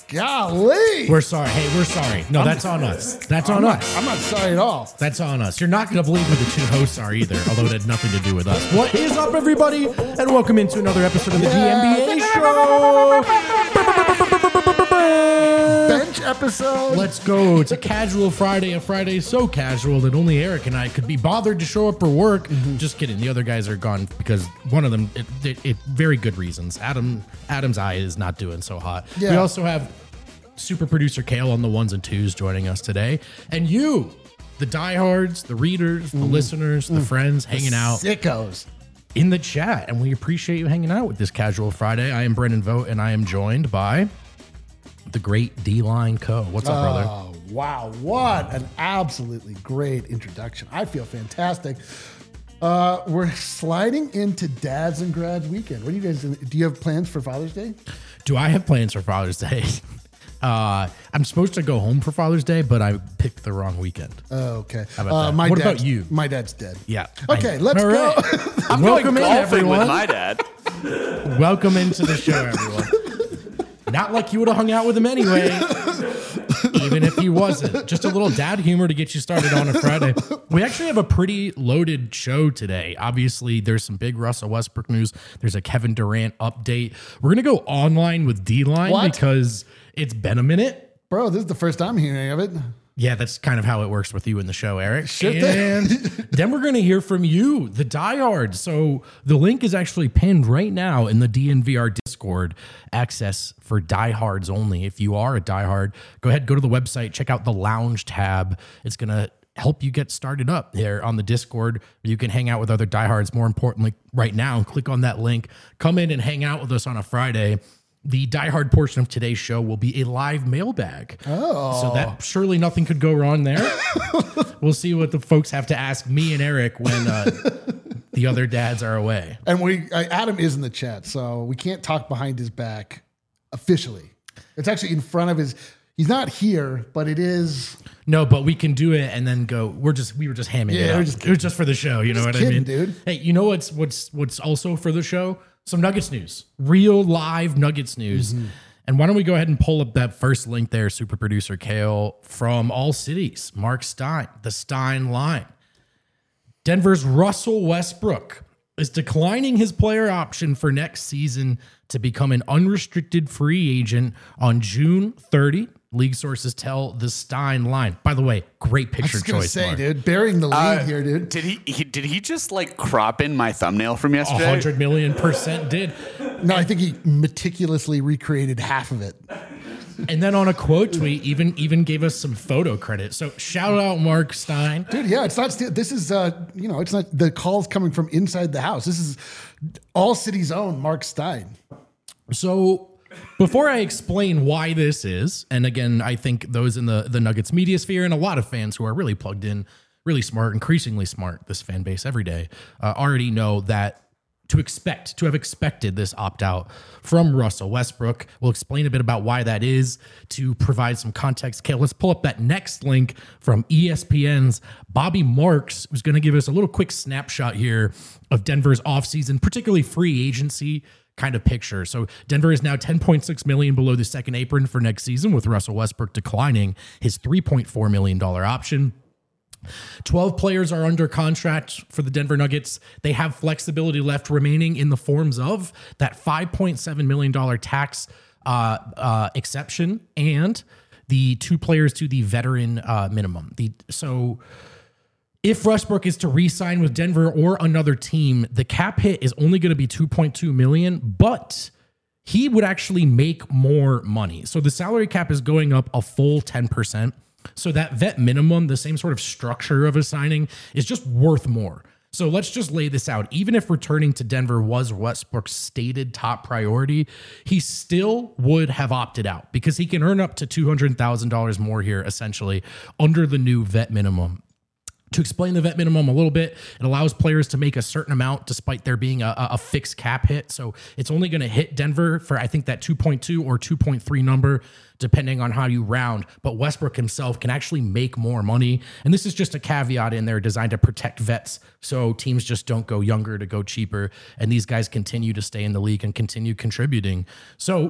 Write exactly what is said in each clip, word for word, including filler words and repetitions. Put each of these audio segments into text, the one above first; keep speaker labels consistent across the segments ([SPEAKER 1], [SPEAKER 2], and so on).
[SPEAKER 1] Golly.
[SPEAKER 2] We're sorry. Hey, we're sorry. No, that's on us. That's
[SPEAKER 1] I'm
[SPEAKER 2] on
[SPEAKER 1] not,
[SPEAKER 2] us.
[SPEAKER 1] I'm not sorry at all.
[SPEAKER 2] That's on us. You're not going to believe who the two hosts are either, although it had nothing to do with us. What is up, everybody? And welcome into another episode of the
[SPEAKER 1] Yeah.
[SPEAKER 2] D N B A Show.
[SPEAKER 1] Bench episode.
[SPEAKER 2] Let's go. It's a casual Friday. A Friday so casual that only Eric and I could be bothered to show up for work.
[SPEAKER 1] Mm-hmm.
[SPEAKER 2] Just kidding. The other guys are gone because one of them, it, it, it very good reasons. Adam, Adam's eye is not doing so hot.
[SPEAKER 1] Yeah.
[SPEAKER 2] We also have super producer Kale on the ones and twos joining us today. And you, the diehards, the readers, the
[SPEAKER 1] Mm.
[SPEAKER 2] listeners, the friends hanging out
[SPEAKER 1] Sickos.
[SPEAKER 2] in the chat. And we appreciate you hanging out with this casual Friday. I am Brendan Vogt and I am joined by the great D-Line Co. What's up, brother?
[SPEAKER 1] Oh, wow. What an absolutely great introduction. I feel fantastic. Uh, we're sliding into Dads and Grads weekend. What do you guys do? Do you have plans for Father's Day?
[SPEAKER 2] Do I have plans for Father's Day? Uh, I'm supposed to go home for Father's Day, but I picked the wrong weekend.
[SPEAKER 1] Oh, okay.
[SPEAKER 2] How about
[SPEAKER 1] uh,
[SPEAKER 2] that?
[SPEAKER 1] My
[SPEAKER 2] What
[SPEAKER 1] dad's-
[SPEAKER 2] about you?
[SPEAKER 1] My dad's dead.
[SPEAKER 2] Yeah.
[SPEAKER 1] Okay,
[SPEAKER 2] I-
[SPEAKER 1] let's
[SPEAKER 2] All
[SPEAKER 1] go.
[SPEAKER 2] right.
[SPEAKER 3] I'm
[SPEAKER 2] Welcome
[SPEAKER 3] going
[SPEAKER 2] in,
[SPEAKER 3] golfing
[SPEAKER 2] everyone.
[SPEAKER 3] with my dad.
[SPEAKER 2] Welcome into the show, everyone. Not like you would have hung out with him anyway, even if he wasn't. Just a little dad humor to get you started on a Friday. We actually have a pretty loaded show today. Obviously, there's some big Russell Westbrook news. There's a Kevin Durant update. We're going to go online with D-Line
[SPEAKER 1] What?
[SPEAKER 2] because it's been a minute.
[SPEAKER 1] Bro, this is the first I'm hearing of it.
[SPEAKER 2] Yeah, that's kind of how it works with you in the show, Eric.
[SPEAKER 1] Sure
[SPEAKER 2] and then we're going to hear from you, the diehards. So the link is actually pinned right now in the D N V R Discord. Access for diehards only. If you are a diehard, go ahead, go to the website, check out the lounge tab. It's going to help you get started up there on the Discord. You can hang out with other diehards. More importantly, right now, click on that link. Come in and hang out with us on a Friday. The diehard portion of today's show will be a live mailbag.
[SPEAKER 1] Oh.
[SPEAKER 2] So that surely nothing could go wrong there. We'll see what the folks have to ask me and Eric when uh, the other dads are away.
[SPEAKER 1] And we uh, Adam is in the chat, so we can't talk behind his back officially. It's actually in front of his. He's not here, but it is.
[SPEAKER 2] No, but we can do it and then go. We're just we were just hamming
[SPEAKER 1] Yeah,
[SPEAKER 2] it
[SPEAKER 1] we're
[SPEAKER 2] up.
[SPEAKER 1] just
[SPEAKER 2] It was just for the show. You know what I
[SPEAKER 1] kidding,
[SPEAKER 2] mean,
[SPEAKER 1] dude.
[SPEAKER 2] Hey, you know what's what's what's also for the show? Some Nuggets news, real live Nuggets news.
[SPEAKER 1] Mm-hmm.
[SPEAKER 2] And why don't we go ahead and pull up that first link there, super producer Kale, from All Cities, Mark Stein, the Stein line. Denver's Russell Westbrook is declining his player option for next season to become an unrestricted free agent on June thirtieth. League sources tell the Stein line. By the way, great
[SPEAKER 1] I
[SPEAKER 2] picture
[SPEAKER 1] was gonna
[SPEAKER 2] choice,
[SPEAKER 1] say,
[SPEAKER 2] Mark.
[SPEAKER 1] dude, burying the lead
[SPEAKER 3] Uh,
[SPEAKER 1] here, dude.
[SPEAKER 3] Did he, he did he just like crop in my thumbnail from
[SPEAKER 2] A
[SPEAKER 3] yesterday?
[SPEAKER 2] hundred million percent did.
[SPEAKER 1] No, I think he meticulously recreated half of it.
[SPEAKER 2] And then on a quote tweet, even even gave us some photo credit. So shout out Mark Stein.
[SPEAKER 1] Dude, yeah, it's not. sti- This is, uh, you know, it's not the calls coming from inside the house. This is All City's own Mark Stein.
[SPEAKER 2] So before I explain why this is, and again, I think those in the, the Nuggets media sphere and a lot of fans who are really plugged in, really smart, increasingly smart, this fan base every day, uh, already know that to expect, to have expected this opt-out from Russell Westbrook. We'll explain a bit about why that is to provide some context. Okay, let's pull up that next link from E S P N's Bobby Marks, who's going to give us a little quick snapshot here of Denver's offseason, particularly free agency kind of picture. So Denver is now ten point six million dollars below the second apron for next season, with Russell Westbrook declining his three point four million dollars option. twelve players are under contract for the Denver Nuggets. They have flexibility left remaining in the forms of that five point seven million dollars tax uh, uh, exception and the two players to the veteran uh, minimum. The so if Westbrook is to re-sign with Denver or another team, the cap hit is only going to be two point two million dollars, but he would actually make more money. So the salary cap is going up a full ten percent. So that vet minimum, the same sort of structure of a signing, is just worth more. So let's just lay this out. Even if returning to Denver was Westbrook's stated top priority, he still would have opted out because he can earn up to two hundred thousand dollars more here, essentially, under the new vet minimum. To explain the vet minimum a little bit, it allows players to make a certain amount despite there being a, a fixed cap hit. So it's only going to hit Denver for, I think, that two point two or two point three number, depending on how you round. But Westbrook himself can actually make more money. And this is just a caveat in there designed to protect vets so teams just don't go younger to go cheaper. And these guys continue to stay in the league and continue contributing. So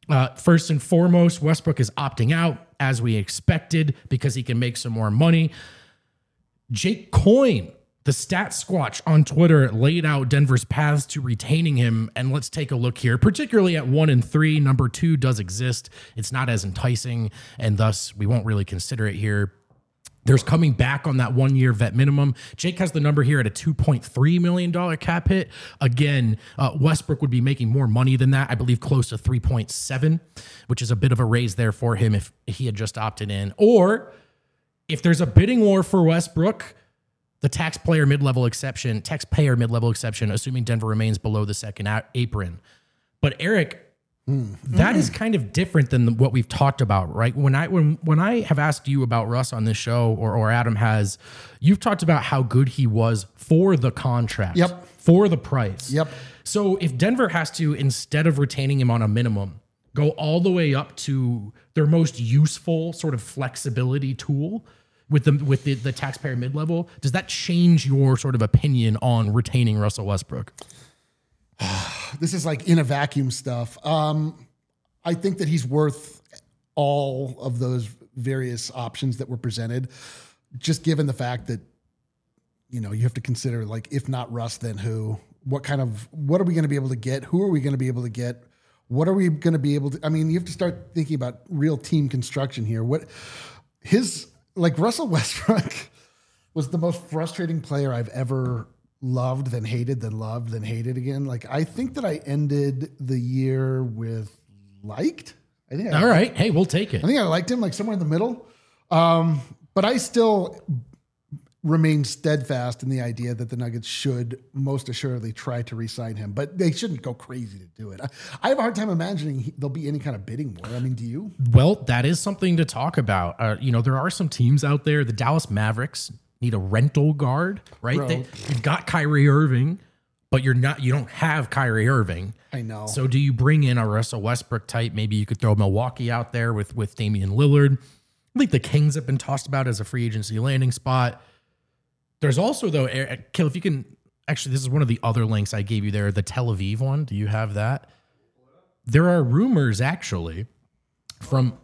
[SPEAKER 2] Uh, first and foremost, Westbrook is opting out as we expected because he can make some more money. Jake Coyne, the stat squatch on Twitter, laid out Denver's paths to retaining him. And let's take a look here, particularly at one and three. Number two does exist. It's not as enticing, and thus we won't really consider it here. There's coming back on that one-year vet minimum. Jake has the number here at a two point three million dollars cap hit. Again, uh, Westbrook would be making more money than that. I believe close to three point seven, which is a bit of a raise there for him if he had just opted in. Or if there's a bidding war for Westbrook, the taxpayer mid-level exception, taxpayer mid-level exception, assuming Denver remains below the second a- apron. But Eric, Mm. That mm. is kind of different than what we've talked about, right? When I when when I have asked you about Russ on this show, or or Adam has, you've talked about how good he was for the contract,
[SPEAKER 1] yep,
[SPEAKER 2] for the price,
[SPEAKER 1] yep.
[SPEAKER 2] So if Denver has to, instead of retaining him on a minimum, go all the way up to their most useful sort of flexibility tool with the with the, the taxpayer mid level, does that change your sort of opinion on retaining Russell Westbrook?
[SPEAKER 1] This is like in a vacuum stuff. Um, I think that he's worth all of those various options that were presented, just given the fact that, you know, you have to consider, like, if not Russ, then who? What kind of, what are we going to be able to get? Who are we going to be able to get? What are we going to be able to, I mean, you have to start thinking about real team construction here. What his, like Russell Westbrook was the most frustrating player I've ever loved, then hated, then loved, then hated again. Like, I think that I ended the year with liked. I think. I
[SPEAKER 2] All right. Hey, we'll take it.
[SPEAKER 1] I think I liked him, like somewhere in the middle. Um, but I still remain steadfast in the idea that the Nuggets should most assuredly try to re-sign him, but they shouldn't go crazy to do it. I, I have a hard time imagining he, there'll be any kind of bidding war. I mean, do you?
[SPEAKER 2] Well, that is something to talk about. Uh, you know, there are some teams out there. The Dallas Mavericks need a rental guard, right? They, you've got Kyrie Irving, but you're not, you don't have Kyrie Irving.
[SPEAKER 1] I know.
[SPEAKER 2] So do you bring in a Russell Westbrook type? Maybe you could throw Milwaukee out there with, with Damian Lillard. I think the Kings have been tossed about as a free agency landing spot. There's also, though, Kill, if you can, actually, this is one of the other links I gave you there, the Tel Aviv one. Do you have that? There are rumors, actually, from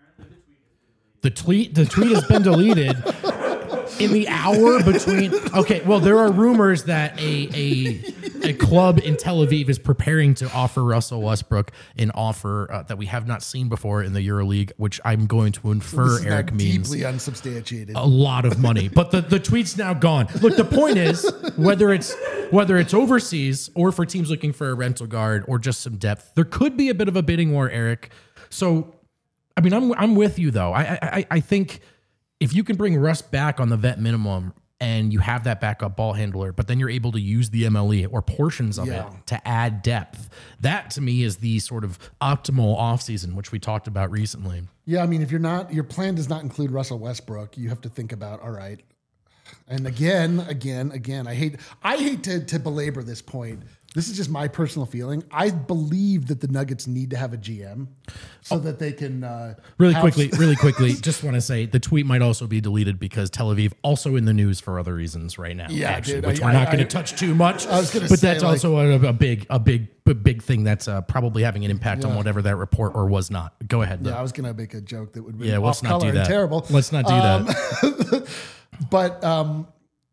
[SPEAKER 2] the tweet. The tweet has been deleted. In the hour between, okay, well, there are rumors that a, a a club in Tel Aviv is preparing to offer Russell Westbrook an offer uh, that we have not seen before in the EuroLeague, which I'm going to infer,
[SPEAKER 1] this is
[SPEAKER 2] Eric,
[SPEAKER 1] not
[SPEAKER 2] means
[SPEAKER 1] deeply unsubstantiated.
[SPEAKER 2] A lot of money. But the, the tweet's now gone. Look, the point is, whether it's whether it's overseas or for teams looking for a rental guard or just some depth, there could be a bit of a bidding war, Eric. So, I mean, I'm I'm with you though. I I, I think. If you can bring Russ back on the vet minimum and you have that backup ball handler, but then you're able to use the M L E or portions of yeah. it to add depth, that to me is the sort of optimal offseason, which we talked about recently.
[SPEAKER 1] Yeah, I mean, if you're not, your plan does not include Russell Westbrook, you have to think about, all right. And again, again, again, I hate, I hate to, to belabor this point. This is just my personal feeling. I believe that the Nuggets need to have a G M so oh. that they can uh,
[SPEAKER 2] really quickly, really quickly. Just want to say the tweet might also be deleted because Tel Aviv also in the news for other reasons right now.
[SPEAKER 1] Yeah,
[SPEAKER 2] actually,
[SPEAKER 1] dude,
[SPEAKER 2] which
[SPEAKER 1] I,
[SPEAKER 2] we're not going to
[SPEAKER 1] I,
[SPEAKER 2] touch too much.
[SPEAKER 1] I was going to,
[SPEAKER 2] but
[SPEAKER 1] say,
[SPEAKER 2] that's
[SPEAKER 1] like,
[SPEAKER 2] also a, a big, a big, a big thing that's uh, probably having an impact
[SPEAKER 1] yeah.
[SPEAKER 2] on whatever that report or was not. Go ahead.
[SPEAKER 1] Yeah,
[SPEAKER 2] though.
[SPEAKER 1] I was going to make a joke that would be
[SPEAKER 2] yeah,
[SPEAKER 1] off
[SPEAKER 2] let's not
[SPEAKER 1] color
[SPEAKER 2] do that.
[SPEAKER 1] and terrible.
[SPEAKER 2] Let's not do
[SPEAKER 1] um,
[SPEAKER 2] that.
[SPEAKER 1] But. Um,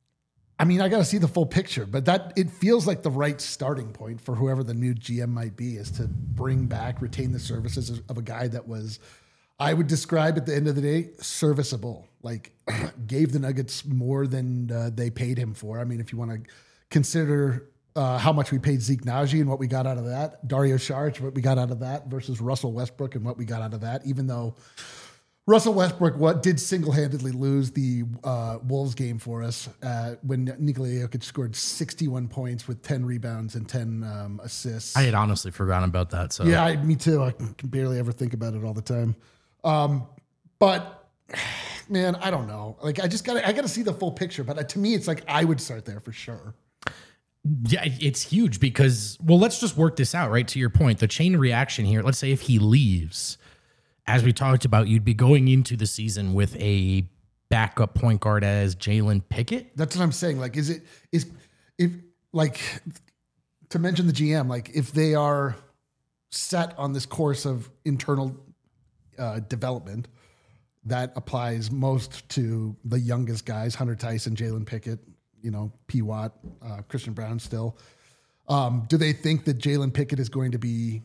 [SPEAKER 1] I mean, I got to see the full picture, but that it feels like the right starting point for whoever the new G M might be is to bring back, retain the services of a guy that was, I would describe at the end of the day, serviceable. Like gave the Nuggets more than uh, they paid him for. I mean, if you want to consider uh, how much we paid Zeke Naji and what we got out of that, Dario Saric, what we got out of that versus Russell Westbrook and what we got out of that, even though Russell Westbrook what did single-handedly lose the uh, Wolves game for us uh, when Nikola Jokic scored sixty-one points with ten rebounds and ten um, assists.
[SPEAKER 2] I had honestly forgotten about that. So
[SPEAKER 1] yeah, I, me too. I can barely ever think about it all the time. Um, but man, I don't know. Like I just got I got to see the full picture. But to me, it's like I would start there for sure.
[SPEAKER 2] Yeah, it's huge because, well, let's just work this out, right? To your point, the chain reaction here, let's say if he leaves, as we talked about, you'd be going into the season with a backup point guard as Jalen Pickett.
[SPEAKER 1] That's what I'm saying. Like, is it, is, if, like, to mention the G M, like, if they are set on this course of internal uh, development that applies most to the youngest guys, Hunter Tyson, Jalen Pickett, you know, P. Watt, uh, Christian Brown still. Um, do they think that Jalen Pickett is going to be,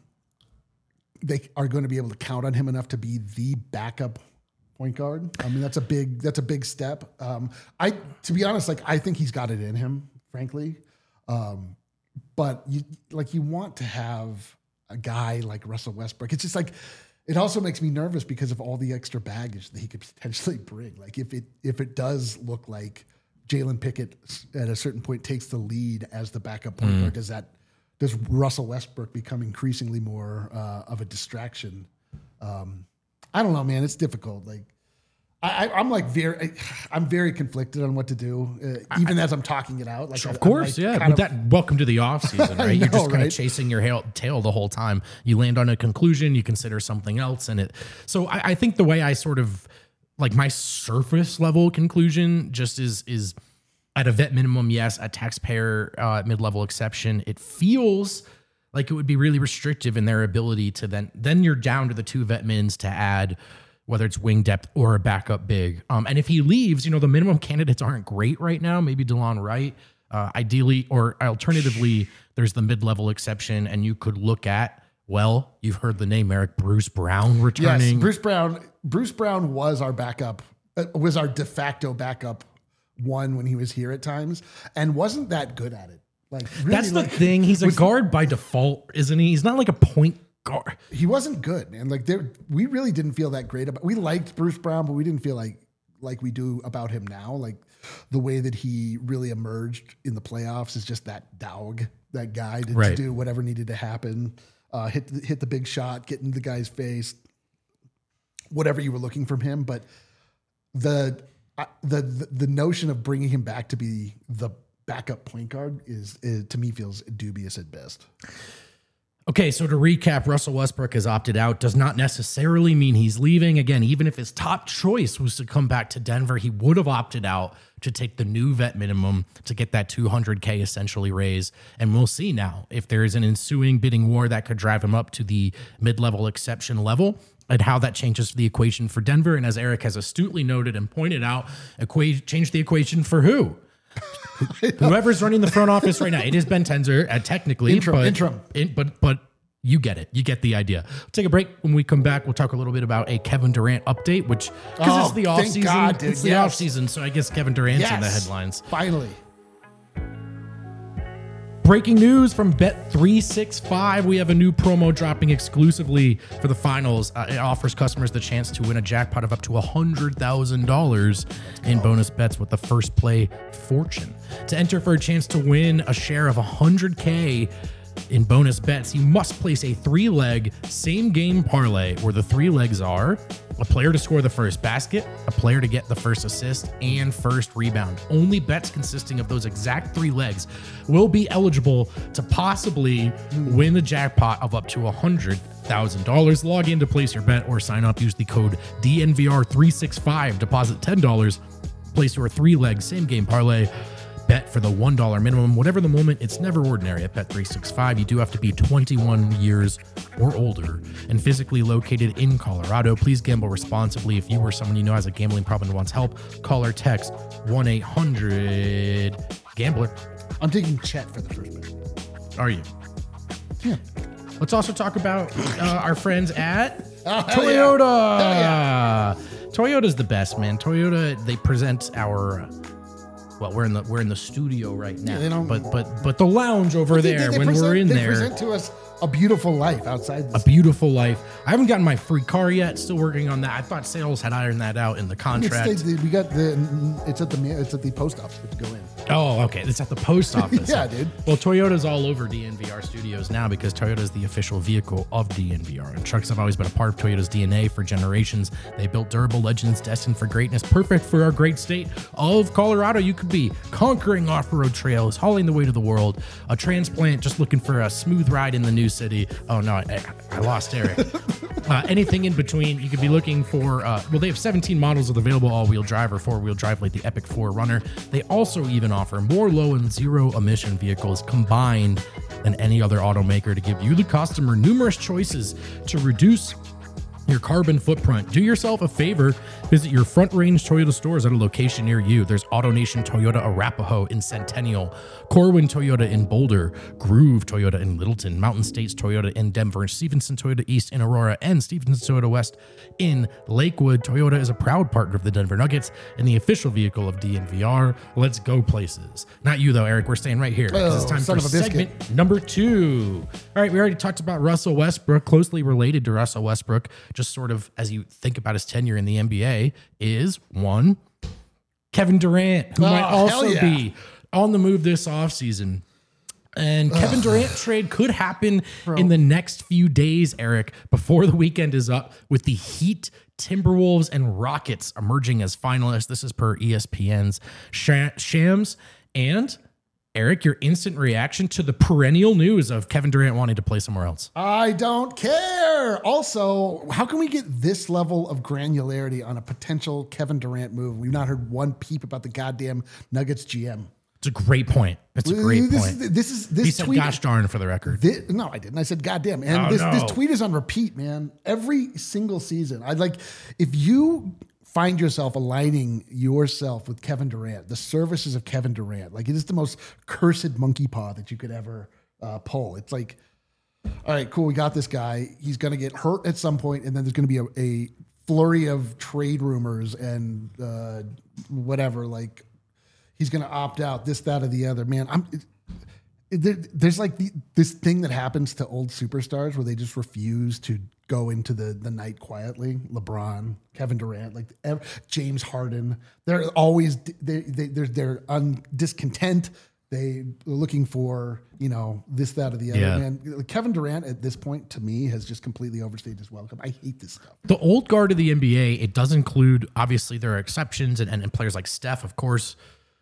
[SPEAKER 1] they are going to be able to count on him enough to be the backup point guard? I mean, that's a big, that's a big step. Um, I, to be honest, like, I think he's got it in him, frankly. Um, but you, like, you want to have a guy like Russell Westbrook. It's just like, it also makes me nervous because of all the extra baggage that he could potentially bring. Like if it if it does look like Jalen Pickett at a certain point takes the lead as the backup point guard, mm. does that does Russell Westbrook become increasingly more uh, of a distraction? Um, I don't know, man. It's difficult. Like I, I'm like very, I'm very conflicted on what to do, uh, even I, as I'm talking it out. Like
[SPEAKER 2] of
[SPEAKER 1] I,
[SPEAKER 2] course,
[SPEAKER 1] like
[SPEAKER 2] yeah. But of, that welcome to the off season, right?
[SPEAKER 1] know,
[SPEAKER 2] You're just kind
[SPEAKER 1] right?
[SPEAKER 2] of chasing your hail, tail the whole time. You land on a conclusion, you consider something else, and it. So I, I think the way I sort of like my surface level conclusion just is is at a vet minimum, yes, a taxpayer uh, mid level exception. It feels like it would be really restrictive in their ability to then then you're down to the two vet mins to add, whether it's wing depth or a backup big. Um, and if he leaves, you know, the minimum candidates aren't great right now. Maybe DeLon Wright, uh, ideally, or alternatively, there's the mid-level exception, and you could look at, well, you've heard the name, Eric, Bruce Brown returning.
[SPEAKER 1] Yes, Bruce Brown. Bruce Brown was our backup, uh, was our de facto backup one when he was here at times, and wasn't that good at it. Like really,
[SPEAKER 2] That's the
[SPEAKER 1] like,
[SPEAKER 2] thing. He's a guard by default, isn't he? He's not like a point guard.
[SPEAKER 1] He wasn't good, man. Like there, we really didn't feel that great about. We liked Bruce Brown, but we didn't feel like like we do about him now. Like the way that he really emerged in the playoffs is just that dog, that guy to,
[SPEAKER 2] right.
[SPEAKER 1] to do whatever needed to happen, uh, hit the, hit the big shot, get into the guy's face, whatever you were looking from him. But the uh, the the, the notion of bringing him back to be the backup point guard is, is to me feels dubious at best.
[SPEAKER 2] Okay, so to recap, Russell Westbrook has opted out. Does not necessarily mean he's leaving. Again, even if his top choice was to come back to Denver, he would have opted out to take the new vet minimum to get that two hundred K essentially raise. And we'll see now if there is an ensuing bidding war that could drive him up to the mid-level exception level and how that changes the equation for Denver. And as Eric has astutely noted and pointed out, equa- change the equation for who? Whoever's running the front office right now, it is Ben Tenzer, uh, technically,
[SPEAKER 1] interim,
[SPEAKER 2] but,
[SPEAKER 1] interim.
[SPEAKER 2] In, but but you get it, you get the idea. We'll take a break. When we come back, we'll talk a little bit about a Kevin Durant update, which because
[SPEAKER 1] oh,
[SPEAKER 2] it's the off season,
[SPEAKER 1] God,
[SPEAKER 2] it's the
[SPEAKER 1] yes.
[SPEAKER 2] off season, so I guess Kevin Durant's
[SPEAKER 1] yes.
[SPEAKER 2] in the headlines.
[SPEAKER 1] Finally.
[SPEAKER 2] Breaking news from Bet three sixty-five. We have a new promo dropping exclusively for the finals. Uh, it offers customers the chance to win a jackpot of up to one hundred thousand dollars in bonus bets with the first play fortune. To enter for a chance to win a share of one hundred K in bonus bets, you must place a three-leg same-game parlay where the three legs are a player to score the first basket, a player to get the first assist, and first rebound. Only bets consisting of those exact three legs will be eligible to possibly win the jackpot of up to one hundred thousand dollars. Log in to place your bet or sign up. Use the code D N V R three sixty-five. Deposit ten dollars. Place your three-leg same-game parlay. Bet for the one dollar minimum. Whatever the moment, it's never ordinary at Bet three sixty-five. You do have to be twenty-one years or older and physically located in Colorado. Please gamble responsibly. If you or someone you know has a gambling problem and wants help, call or text one eight hundred gambler.
[SPEAKER 1] I'm taking Chet for the first bet.
[SPEAKER 2] Are you?
[SPEAKER 1] Yeah.
[SPEAKER 2] Let's also talk about uh, our friends at
[SPEAKER 1] Oh, hell
[SPEAKER 2] Toyota.
[SPEAKER 1] Yeah. Hell yeah.
[SPEAKER 2] Toyota's the best, man. Toyota, they present our... Well, we're in the we're in the studio right now,
[SPEAKER 1] Yeah, they don't-
[SPEAKER 2] but but but the lounge over
[SPEAKER 1] They-
[SPEAKER 2] there
[SPEAKER 1] they
[SPEAKER 2] when
[SPEAKER 1] present-
[SPEAKER 2] we're in
[SPEAKER 1] they
[SPEAKER 2] there,
[SPEAKER 1] present to us a beautiful life outside
[SPEAKER 2] a
[SPEAKER 1] this.
[SPEAKER 2] beautiful life. I haven't gotten my free car yet. Still working on that. I thought sales had ironed that out in the
[SPEAKER 1] It's
[SPEAKER 2] contract.
[SPEAKER 1] the- we got the. It's at the. ma- It's at the post office to go in.
[SPEAKER 2] Oh, okay. It's at the post office.
[SPEAKER 1] Yeah, dude.
[SPEAKER 2] Well, Toyota's all over D N V R Studios now because Toyota's the official vehicle of D N V R. And trucks have always been a part of Toyota's D N A for generations. They built durable legends destined for greatness, perfect for our great state of Colorado. You could be conquering off-road trails, hauling the way to the world, a transplant just looking for a smooth ride in the new city. Oh, no, I, I lost Eric. uh, anything in between, you could be looking for, uh, well, they have seventeen models of available all-wheel drive or four-wheel drive like the Epic four Runner. They also even offer more low and zero emission vehicles combined than any other automaker to give you, the customer, numerous choices to reduce your carbon footprint. Do yourself a favor. Visit your Front Range Toyota stores at a location near you. There's AutoNation Toyota Arapahoe in Centennial, Corwin Toyota in Boulder, Groove Toyota in Littleton, Mountain States Toyota in Denver, Stevenson Toyota East in Aurora, and Stevenson Toyota West in Lakewood. Toyota is a proud partner of the Denver Nuggets and the official vehicle of D N V R. Let's go places. Not you though, Eric. We're staying right here because
[SPEAKER 1] Oh,
[SPEAKER 2] it's time
[SPEAKER 1] son
[SPEAKER 2] for
[SPEAKER 1] of a biscuit.
[SPEAKER 2] segment number two. All right, we already talked about Russell Westbrook. Closely related to Russell Westbrook, just sort of as you think about his tenure in the N B A, is one, Kevin Durant, who
[SPEAKER 1] Oh,
[SPEAKER 2] might
[SPEAKER 1] hell
[SPEAKER 2] also
[SPEAKER 1] yeah.
[SPEAKER 2] be on the move this offseason. And Kevin Durant trade could happen in the next few days, Eric, before the weekend is up, with the Heat, Timberwolves, and Rockets emerging as finalists. This is per E S P N's Sha- Shams. And Eric, your instant reaction to the perennial news of Kevin Durant wanting to play somewhere else.
[SPEAKER 1] I don't care. Also, how can we get this level of granularity on a potential Kevin Durant move? We've not heard one peep about the goddamn Nuggets G M.
[SPEAKER 2] It's a great point. It's a great
[SPEAKER 1] this
[SPEAKER 2] point.
[SPEAKER 1] Is, this is this
[SPEAKER 2] He said,
[SPEAKER 1] tweet.
[SPEAKER 2] gosh darn, for the record.
[SPEAKER 1] Thi- no, I didn't. I said goddamn. And
[SPEAKER 2] Oh,
[SPEAKER 1] this,
[SPEAKER 2] no.
[SPEAKER 1] this tweet is on repeat, man. Every single season. I'd like if you find yourself aligning yourself with Kevin Durant, the services of Kevin Durant, like it is the most cursed monkey paw that you could ever uh, pull. It's like, all right, cool, we got this guy. He's going to get hurt at some point, and then there's going to be a, a flurry of trade rumors and uh, whatever. Like he's going to opt out, this, that, or the other. Man, I'm. It, there, there's like the, this thing that happens to old superstars where they just refuse to go into the the night quietly. LeBron, Kevin Durant, like ev- James Harden, they're always they they they're they're un, discontent. They are looking for, you know, this, that, or the other.
[SPEAKER 2] Yeah.
[SPEAKER 1] Man, Kevin Durant at this point to me has just completely overstayed his welcome. I hate this stuff.
[SPEAKER 2] The old guard of the N B A, it does include, obviously there are exceptions and, and, and players like Steph, of course.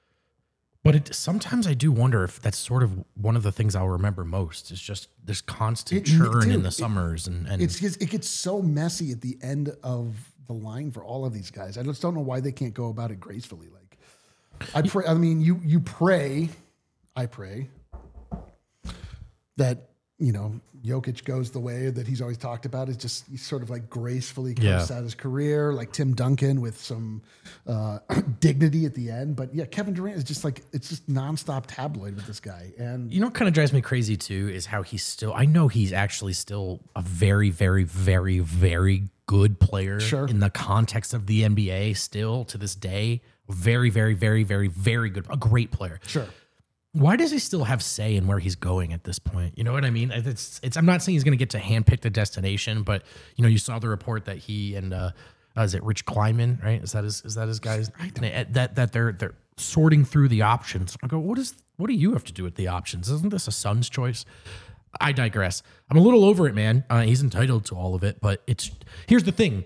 [SPEAKER 2] But it, sometimes I do wonder if that's sort of one of the things I'll remember most is just this constant
[SPEAKER 1] It-
[SPEAKER 2] churn
[SPEAKER 1] dude,
[SPEAKER 2] in the
[SPEAKER 1] it-
[SPEAKER 2] summers. And, and
[SPEAKER 1] It's just, it gets so messy at the end of the line for all of these guys. I just don't know why they can't go about it gracefully. Like I pray, I mean, you you pray, I pray that, you know, Jokic goes the way that he's always talked about, is just he sort of like gracefully comes
[SPEAKER 2] Yeah.
[SPEAKER 1] out his career, like Tim Duncan with some uh, dignity at the end. But yeah, Kevin Durant is just like, it's just nonstop tabloid with this guy. And
[SPEAKER 2] you know what kind of drives me crazy too is how he's still, I know he's actually still a very, very, very, very good player
[SPEAKER 1] Sure.
[SPEAKER 2] in the context of the N B A still to this day. Very, very, very, very, very good. A great player.
[SPEAKER 1] sure.
[SPEAKER 2] Why does he still have say in where he's going at this point? You know what I mean? It's, it's, I'm not saying he's going to get to handpick the destination, but you know, you saw the report that he and uh, uh, is it Rich Kleiman, right? Is that his, is that his guys? That that they're they're sorting through the options. I go, what is what do you have to do with the options? Isn't this a son's choice? I digress. I'm a little over it, man. Uh, he's entitled to all of it, but it's here's the thing.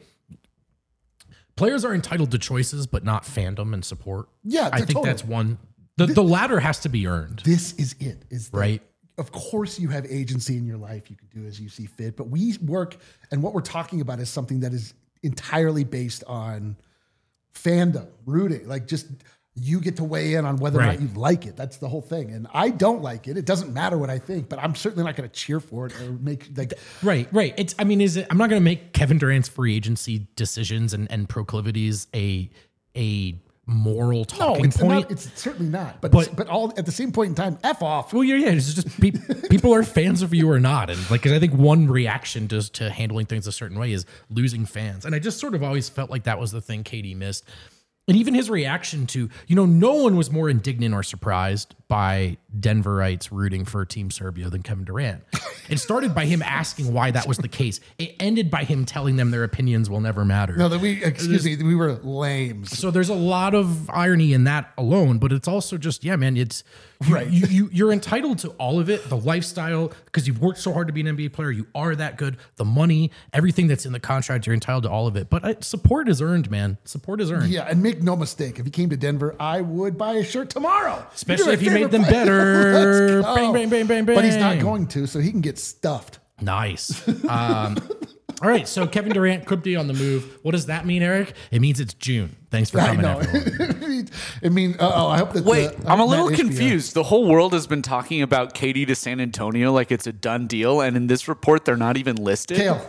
[SPEAKER 2] Players are entitled to choices, but not fandom and support.
[SPEAKER 1] Yeah,
[SPEAKER 2] I think
[SPEAKER 1] totally.
[SPEAKER 2] that's one. The, the latter has to be earned.
[SPEAKER 1] This is it. Is that,
[SPEAKER 2] Right.
[SPEAKER 1] Of course, you have agency in your life. You can do as you see fit. But we work, and what we're talking about is something that is entirely based on fandom, rooting. Like just you get to weigh in on whether or
[SPEAKER 2] Right.
[SPEAKER 1] not you like it. That's the whole thing. And I don't like it. It doesn't matter what I think, but I'm certainly not going to cheer for it or make like.
[SPEAKER 2] Right, right. It's. I mean, is it? I'm not going to make Kevin Durant's free agency decisions and, and proclivities a a moral
[SPEAKER 1] No,
[SPEAKER 2] talking
[SPEAKER 1] it's
[SPEAKER 2] point.
[SPEAKER 1] not. It's certainly not. But
[SPEAKER 2] But-
[SPEAKER 1] but, all at the same point in time, f off.
[SPEAKER 2] Well, yeah, yeah. It's just pe- people are fans of you or not, and like, 'cause I think one reaction to to handling things a certain way is losing fans, and I just sort of always felt like that was the thing K D missed, and even his reaction to, you know, no one was more indignant or surprised by Denverites rooting for Team Serbia than Kevin Durant. It started by him asking why that was the case. It ended by him telling them their opinions will never matter.
[SPEAKER 1] No, that we excuse me. We were lames.
[SPEAKER 2] So there's a lot of irony in that alone, but it's also just, yeah, man, it's you,
[SPEAKER 1] Right.
[SPEAKER 2] you, you you're entitled to all of it, the lifestyle, because you've worked so hard to be an N B A player, you are that good, the money, everything that's in the contract, you're entitled to all of it. But uh, support is earned, man. Support is earned.
[SPEAKER 1] Yeah, and make no mistake, if he came to Denver, I would buy a shirt tomorrow.
[SPEAKER 2] Especially
[SPEAKER 1] You're
[SPEAKER 2] if he
[SPEAKER 1] my
[SPEAKER 2] made them
[SPEAKER 1] favorite player.
[SPEAKER 2] better.
[SPEAKER 1] Let's go.
[SPEAKER 2] Bang, bang, bang, bang,
[SPEAKER 1] But he's not
[SPEAKER 2] bang.
[SPEAKER 1] going to, so he can get stuffed.
[SPEAKER 2] Nice. Um, All right, so Kevin Durant could be on the move. What does that mean, Eric? It means it's June. Thanks for
[SPEAKER 1] I
[SPEAKER 2] coming,
[SPEAKER 1] know.
[SPEAKER 2] everyone.
[SPEAKER 1] I mean, uh, oh, I hope that.
[SPEAKER 3] Wait,
[SPEAKER 1] the, I
[SPEAKER 3] I'm a
[SPEAKER 1] hope
[SPEAKER 3] little
[SPEAKER 1] that H B O
[SPEAKER 3] confused. The whole world has been talking about Katie to San Antonio like it's a done deal, and in this report, they're not even listed.
[SPEAKER 1] Kale,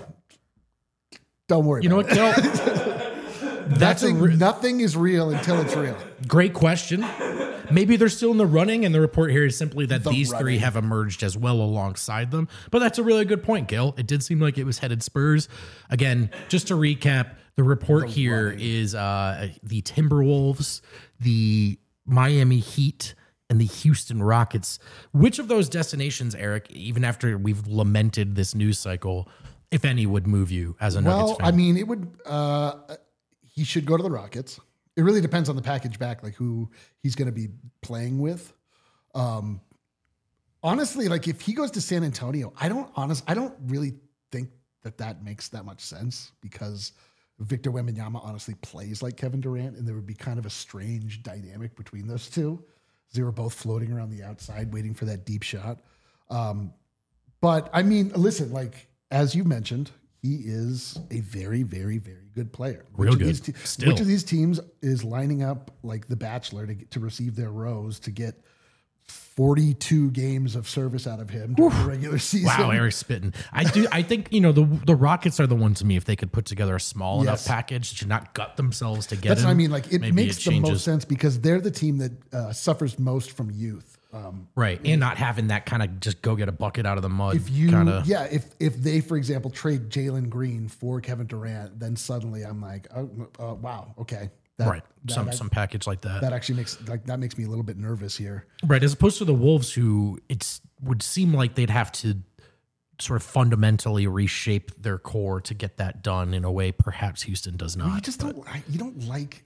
[SPEAKER 1] don't worry.
[SPEAKER 2] You know
[SPEAKER 1] about
[SPEAKER 2] what,
[SPEAKER 1] it.
[SPEAKER 2] Kale? That's a
[SPEAKER 1] Nothing,
[SPEAKER 2] re-
[SPEAKER 1] nothing is real until it's real.
[SPEAKER 2] great question. Maybe they're still in the running, and the report here is simply that
[SPEAKER 1] The
[SPEAKER 2] these three
[SPEAKER 1] running.
[SPEAKER 2] have emerged as well alongside them. But that's a really good point, Gil. It did seem like it was headed Spurs. Again, just to recap, the report here is uh, the Timberwolves, the Miami Heat, and the Houston Rockets. Which of those destinations, Eric, even after we've lamented this news cycle, if any, would move you as a Nuggets
[SPEAKER 1] Well,
[SPEAKER 2] fan?
[SPEAKER 1] I mean, it would. Uh, he should go to the Rockets. It really depends on the package back, like who he's going to be playing with. Um, honestly, like if he goes to San Antonio, I don't honest, I don't really think that that makes that much sense because Victor Wembanyama honestly plays like Kevin Durant, and there would be kind of a strange dynamic between those two. They were both floating around the outside, waiting for that deep shot. Um, but I mean, listen, like as you mentioned, he is a very, very, very good player.
[SPEAKER 2] Real
[SPEAKER 1] which of
[SPEAKER 2] good.
[SPEAKER 1] These te-
[SPEAKER 2] Still.
[SPEAKER 1] Which of these teams is lining up like the Bachelor to get, to receive their rose to get forty-two games of service out of him during the regular season?
[SPEAKER 2] Wow, Eric's spitting. I do. I think you know the the Rockets are the one to me. If they could put together a small enough
[SPEAKER 1] Yes.
[SPEAKER 2] package to not gut themselves to get
[SPEAKER 1] That's
[SPEAKER 2] him,
[SPEAKER 1] what I mean. Like it
[SPEAKER 2] maybe
[SPEAKER 1] makes the
[SPEAKER 2] changes.
[SPEAKER 1] most sense because they're the team that uh, suffers most from youth. Um,
[SPEAKER 2] right? And not having that kind of just go get a bucket out of the mud.
[SPEAKER 1] if you,
[SPEAKER 2] kind of
[SPEAKER 1] yeah, if if they, for example, trade Jalen Green for Kevin Durant, then suddenly I'm like, oh, uh, wow, okay, that,
[SPEAKER 2] right,
[SPEAKER 1] that,
[SPEAKER 2] some
[SPEAKER 1] that,
[SPEAKER 2] some package like that.
[SPEAKER 1] that actually makes like that makes me a little bit nervous here.
[SPEAKER 2] Right, as opposed to the Wolves, who it's would seem like they'd have to sort of fundamentally reshape their core to get that done in a way perhaps Houston does not.
[SPEAKER 1] You just don't. I- You don't like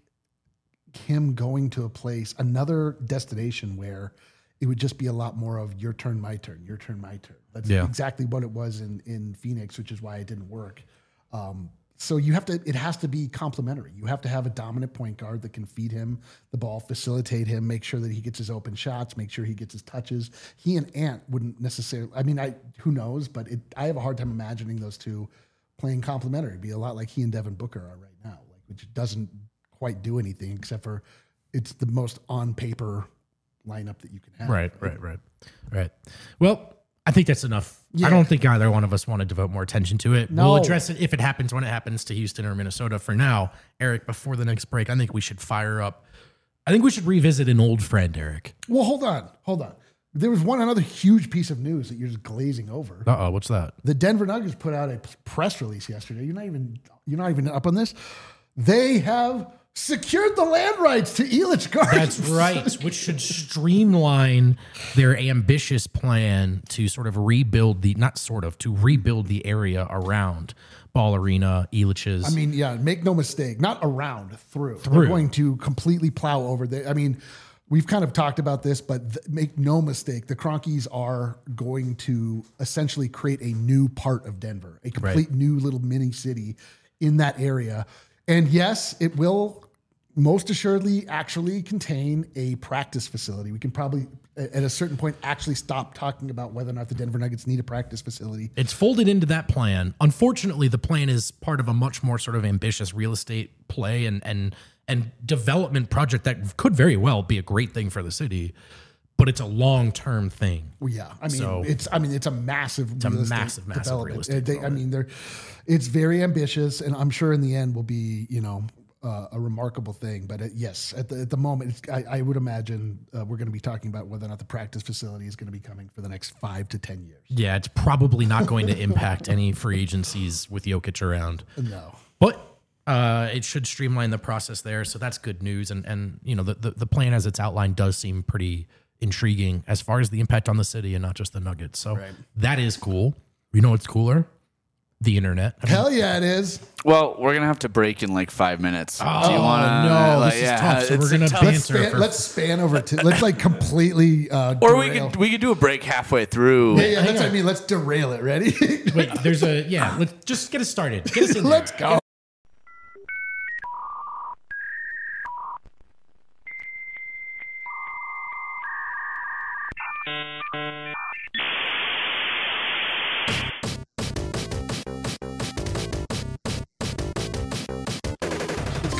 [SPEAKER 1] him going to a place, another destination where it would just be a lot more of your turn, my turn, your turn, my turn. That's
[SPEAKER 2] Yeah.
[SPEAKER 1] exactly what it was in in Phoenix, which is why it didn't work. Um, so you have to. It has to be complementary. You have to have a dominant point guard that can feed him the ball, facilitate him, make sure that he gets his open shots, make sure he gets his touches. He and Ant wouldn't necessarily. I mean, I who knows, but it, I have a hard time imagining those two playing complementary. It'd be a lot like he and Devin Booker are right now, like which doesn't quite do anything except for it's the most on paper lineup that you can have.
[SPEAKER 2] Right, right, right, right. Well, I think that's enough.
[SPEAKER 1] Yeah.
[SPEAKER 2] I don't think either one of us want to devote more attention to it.
[SPEAKER 1] No.
[SPEAKER 2] We'll address it if it happens when it happens to Houston or Minnesota. For now, Eric, before the next break, I think we should fire up. I think we should revisit an old friend, Eric.
[SPEAKER 1] Well, hold on, hold on. There was one another huge piece of news that you're just glazing over.
[SPEAKER 2] Uh oh, what's that?
[SPEAKER 1] The Denver Nuggets put out a press release yesterday. You're not even you're not even up on this. They have secured the land rights to Elitch Gardens.
[SPEAKER 2] That's right, which should streamline their ambitious plan to sort of rebuild the, not sort of, to rebuild the area around Ball Arena, Elitch's.
[SPEAKER 1] I mean, yeah, make no mistake, not around, through.
[SPEAKER 2] Through.
[SPEAKER 1] They're going to completely plow over there. I mean, we've kind of talked about this, but th- make no mistake, the Cronkies are going to essentially create a new part of Denver, a complete
[SPEAKER 2] Right.
[SPEAKER 1] new little mini city in that area. And yes, it will most assuredly actually contain a practice facility. We can probably, a- at a certain point, actually stop talking about whether or not the Denver Nuggets need a practice facility.
[SPEAKER 2] It's folded into that plan. Unfortunately, the plan is part of a much more sort of ambitious real estate play and and and development project that could very well be a great thing for the city, but it's a long-term thing.
[SPEAKER 1] Well, yeah, I mean,
[SPEAKER 2] So-
[SPEAKER 1] it's I mean, it's a massive,
[SPEAKER 2] a
[SPEAKER 1] real estate
[SPEAKER 2] massive, massive
[SPEAKER 1] development.
[SPEAKER 2] real estate
[SPEAKER 1] They- I mean, they're it's very ambitious, and I'm sure in the end will be, you know, uh, a remarkable thing. But it, yes, at the at the moment, it's, I, I would imagine uh, we're going to be talking about whether or not the practice facility is going to be coming for the next five to ten years.
[SPEAKER 2] Yeah, it's probably not going to impact any free agencies with Jokic around.
[SPEAKER 1] No,
[SPEAKER 2] But uh, it should streamline the process there, so that's good news. And and you know the, the the plan as it's outlined does seem pretty intriguing as far as the impact on the city and not just the Nuggets. So
[SPEAKER 1] Right.
[SPEAKER 2] that is cool. You know what's cooler? The internet. I mean,
[SPEAKER 1] hell yeah, it is.
[SPEAKER 3] Well, we're gonna have to break in like five minutes.
[SPEAKER 2] Oh,
[SPEAKER 3] Do you wanna,
[SPEAKER 2] no,
[SPEAKER 3] like,
[SPEAKER 2] this is
[SPEAKER 3] yeah,
[SPEAKER 2] tough. So
[SPEAKER 3] it's
[SPEAKER 2] we're
[SPEAKER 3] a
[SPEAKER 2] gonna
[SPEAKER 3] tough-
[SPEAKER 2] ban-
[SPEAKER 1] Let's
[SPEAKER 2] Answer
[SPEAKER 1] span,
[SPEAKER 2] for-
[SPEAKER 1] let's span over to let's like completely uh,
[SPEAKER 3] Or we
[SPEAKER 1] derail.
[SPEAKER 3] could we could do a break halfway through.
[SPEAKER 1] Yeah, yeah, that's what I mean. Let's derail it. Ready?
[SPEAKER 2] Wait, there's a yeah. Let's just get us started. Get us in there.
[SPEAKER 1] Let's go.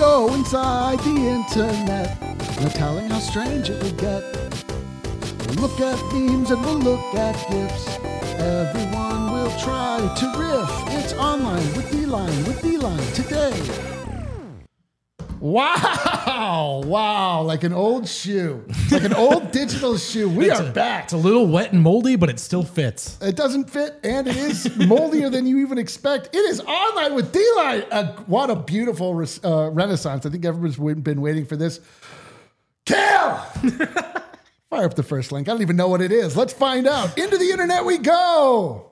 [SPEAKER 1] go inside the internet. No telling how strange it will get. We'll look at memes and we'll look at GIFs. Everyone will try to riff. It's online with D-Line, with D-Line today. Wow, wow, like an old shoe. It's like an old digital shoe. We
[SPEAKER 2] It's
[SPEAKER 1] are
[SPEAKER 2] a-
[SPEAKER 1] back.
[SPEAKER 2] It's a little wet and moldy, but it still fits.
[SPEAKER 1] It doesn't fit, and it is moldier than you even expect. It is online with D-Line. Uh, what a beautiful res- uh, renaissance. I think everyone's w- been waiting for this. Cal! Fire up the first link. I don't even know what it is. Let's find out. Into the internet we go.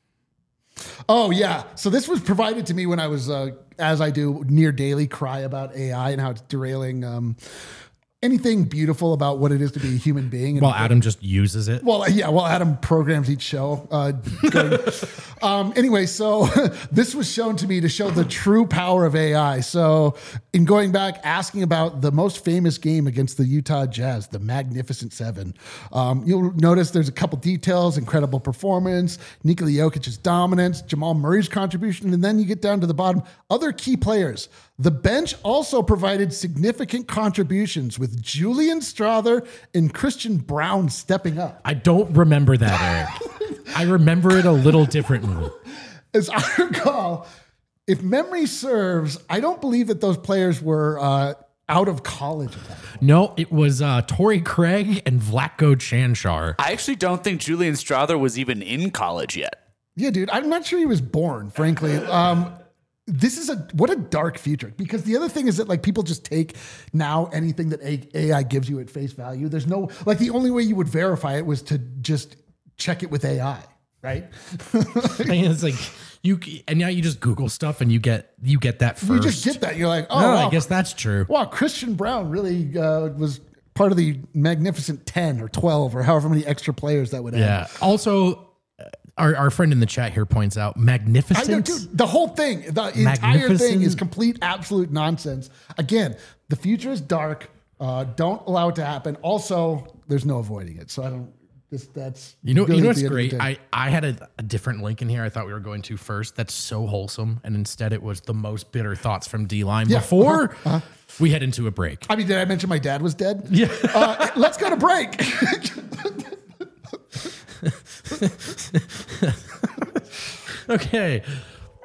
[SPEAKER 1] Oh, yeah. So this was provided to me when I was, uh, as I do, near daily cry about A I and how it's derailing um, anything beautiful about what it is to be a human being. And
[SPEAKER 2] Well, Adam just uses it.
[SPEAKER 1] Well, yeah, well, Adam programs each show. Uh, going- um, anyway, so this was shown to me to show the true power of A I. So, in going back, asking about the most famous game against the Utah Jazz, the Magnificent Seven, um, you'll notice there's a couple details: incredible performance, Nikola Jokic's dominance, Jamal Murray's contribution, and then you get down to the bottom, other key players. The bench also provided significant contributions with Julian Strother and Christian Brown stepping up.
[SPEAKER 2] I don't remember that, Eric. I remember it a little differently.
[SPEAKER 1] As I recall, if memory serves, I don't believe that those players were uh, out of college at that point.
[SPEAKER 2] No, it was uh, Torrey Craig and Vlatko Chanchar.
[SPEAKER 3] I actually don't think Julian Strother was even in college yet.
[SPEAKER 1] Yeah, dude, I'm not sure he was born, frankly. Um, this is a what a dark future, because the other thing is that like people just take now anything that A I gives you at face value. There's no like the only way you would verify it was to just check it with A I, right?
[SPEAKER 2] I mean, it's like you, and now you just Google stuff and you get you get that first.
[SPEAKER 1] You just get that. You're like, oh,
[SPEAKER 2] No,
[SPEAKER 1] wow,
[SPEAKER 2] I guess that's true.
[SPEAKER 1] wow, Christian Brown really uh, was part of the Magnificent ten or twelve or however many extra players that would add.
[SPEAKER 2] Yeah. Also, uh, our, our friend in the chat here points out
[SPEAKER 1] I know,
[SPEAKER 2] magnificent.
[SPEAKER 1] dude, the whole thing, the entire thing is
[SPEAKER 2] Magnificent.
[SPEAKER 1] complete, absolute nonsense. Again, the future is dark. Uh, don't allow it to happen. Also, there's no avoiding it. So I don't. This that's
[SPEAKER 2] You know,
[SPEAKER 1] really
[SPEAKER 2] you know
[SPEAKER 1] at
[SPEAKER 2] what's
[SPEAKER 1] the end of the
[SPEAKER 2] great?
[SPEAKER 1] day.
[SPEAKER 2] I, I had a, a different link in here I thought we were going to first. That's so wholesome. And instead it was the most bitter thoughts from D-Line
[SPEAKER 1] Yeah,
[SPEAKER 2] before
[SPEAKER 1] uh-huh, uh-huh.
[SPEAKER 2] we head into a break.
[SPEAKER 1] I mean, did I mention my dad was dead?
[SPEAKER 2] Yeah.
[SPEAKER 1] Uh, let's go to break.
[SPEAKER 2] Okay.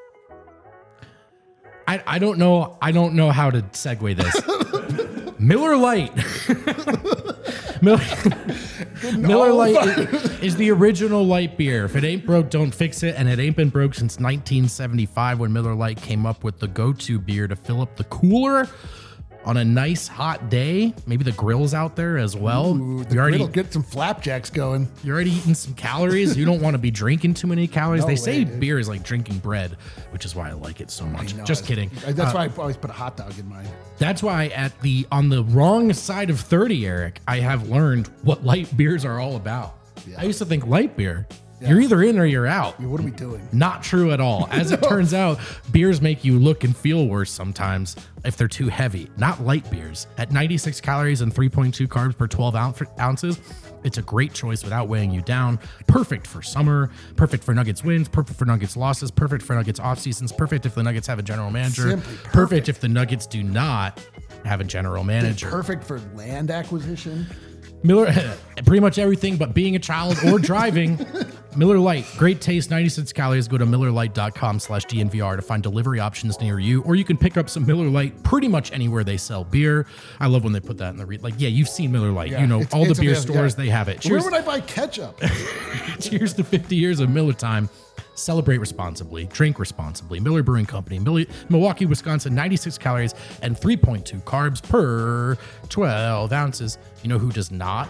[SPEAKER 2] I, I don't know. I don't know how to segue this. Miller Lite. Miller, Miller Lite is, is the original light beer. If it ain't broke, don't fix it. And it ain't been broke since nineteen seventy-five when Miller Lite came up with the go-to beer to fill up the cooler on a nice hot day. Maybe the grill's out there as well.
[SPEAKER 1] Ooh, the
[SPEAKER 2] you're, already,
[SPEAKER 1] griddle, get some flapjacks going.
[SPEAKER 2] you're already eating some calories. You don't want to be drinking too many calories.
[SPEAKER 1] No
[SPEAKER 2] they
[SPEAKER 1] way,
[SPEAKER 2] say
[SPEAKER 1] dude.
[SPEAKER 2] beer is like drinking bread, which is why I like it so much.
[SPEAKER 1] No,
[SPEAKER 2] Just
[SPEAKER 1] I-
[SPEAKER 2] kidding.
[SPEAKER 1] I- That's
[SPEAKER 2] Uh,
[SPEAKER 1] why I always put a hot dog in mine.
[SPEAKER 2] That's why at the on the wrong side of thirty, Eric, I have learned what light beers are all about. I used to think light beer, you're either in or you're out.
[SPEAKER 1] I mean, what are we doing?
[SPEAKER 2] Not true at all. As it turns out, beers make you look and feel worse sometimes if they're too heavy. Not light beers. At ninety-six calories and three point two carbs per twelve ounce, ounces, it's a great choice without weighing you down. Perfect for summer, perfect for Nuggets wins, perfect for Nuggets losses, perfect for Nuggets off seasons, perfect if the Nuggets have a general manager,
[SPEAKER 1] Simply perfect.
[SPEAKER 2] perfect if the Nuggets do not have a general manager.
[SPEAKER 1] Perfect for land acquisition.
[SPEAKER 2] Miller, pretty much everything but being a child or driving. Miller Lite, great taste, ninety-six calories. Go to millerlite.com slash DNVR to find delivery options near you, or you can pick up some Miller Lite pretty much anywhere they sell beer. I love when they put that in the re- like. Yeah, you've seen Miller Lite.
[SPEAKER 1] Yeah,
[SPEAKER 2] you know
[SPEAKER 1] it's-
[SPEAKER 2] all the
[SPEAKER 1] it's
[SPEAKER 2] beer
[SPEAKER 1] available,
[SPEAKER 2] stores
[SPEAKER 1] yeah.
[SPEAKER 2] they have it.
[SPEAKER 1] Where
[SPEAKER 2] Cheers,
[SPEAKER 1] would I buy ketchup?
[SPEAKER 2] cheers to fifty years of Miller time. Celebrate responsibly. Drink responsibly. Miller Brewing Company, Mil- Milwaukee, Wisconsin. ninety-six calories and three point two carbs per twelve ounces. You know who does not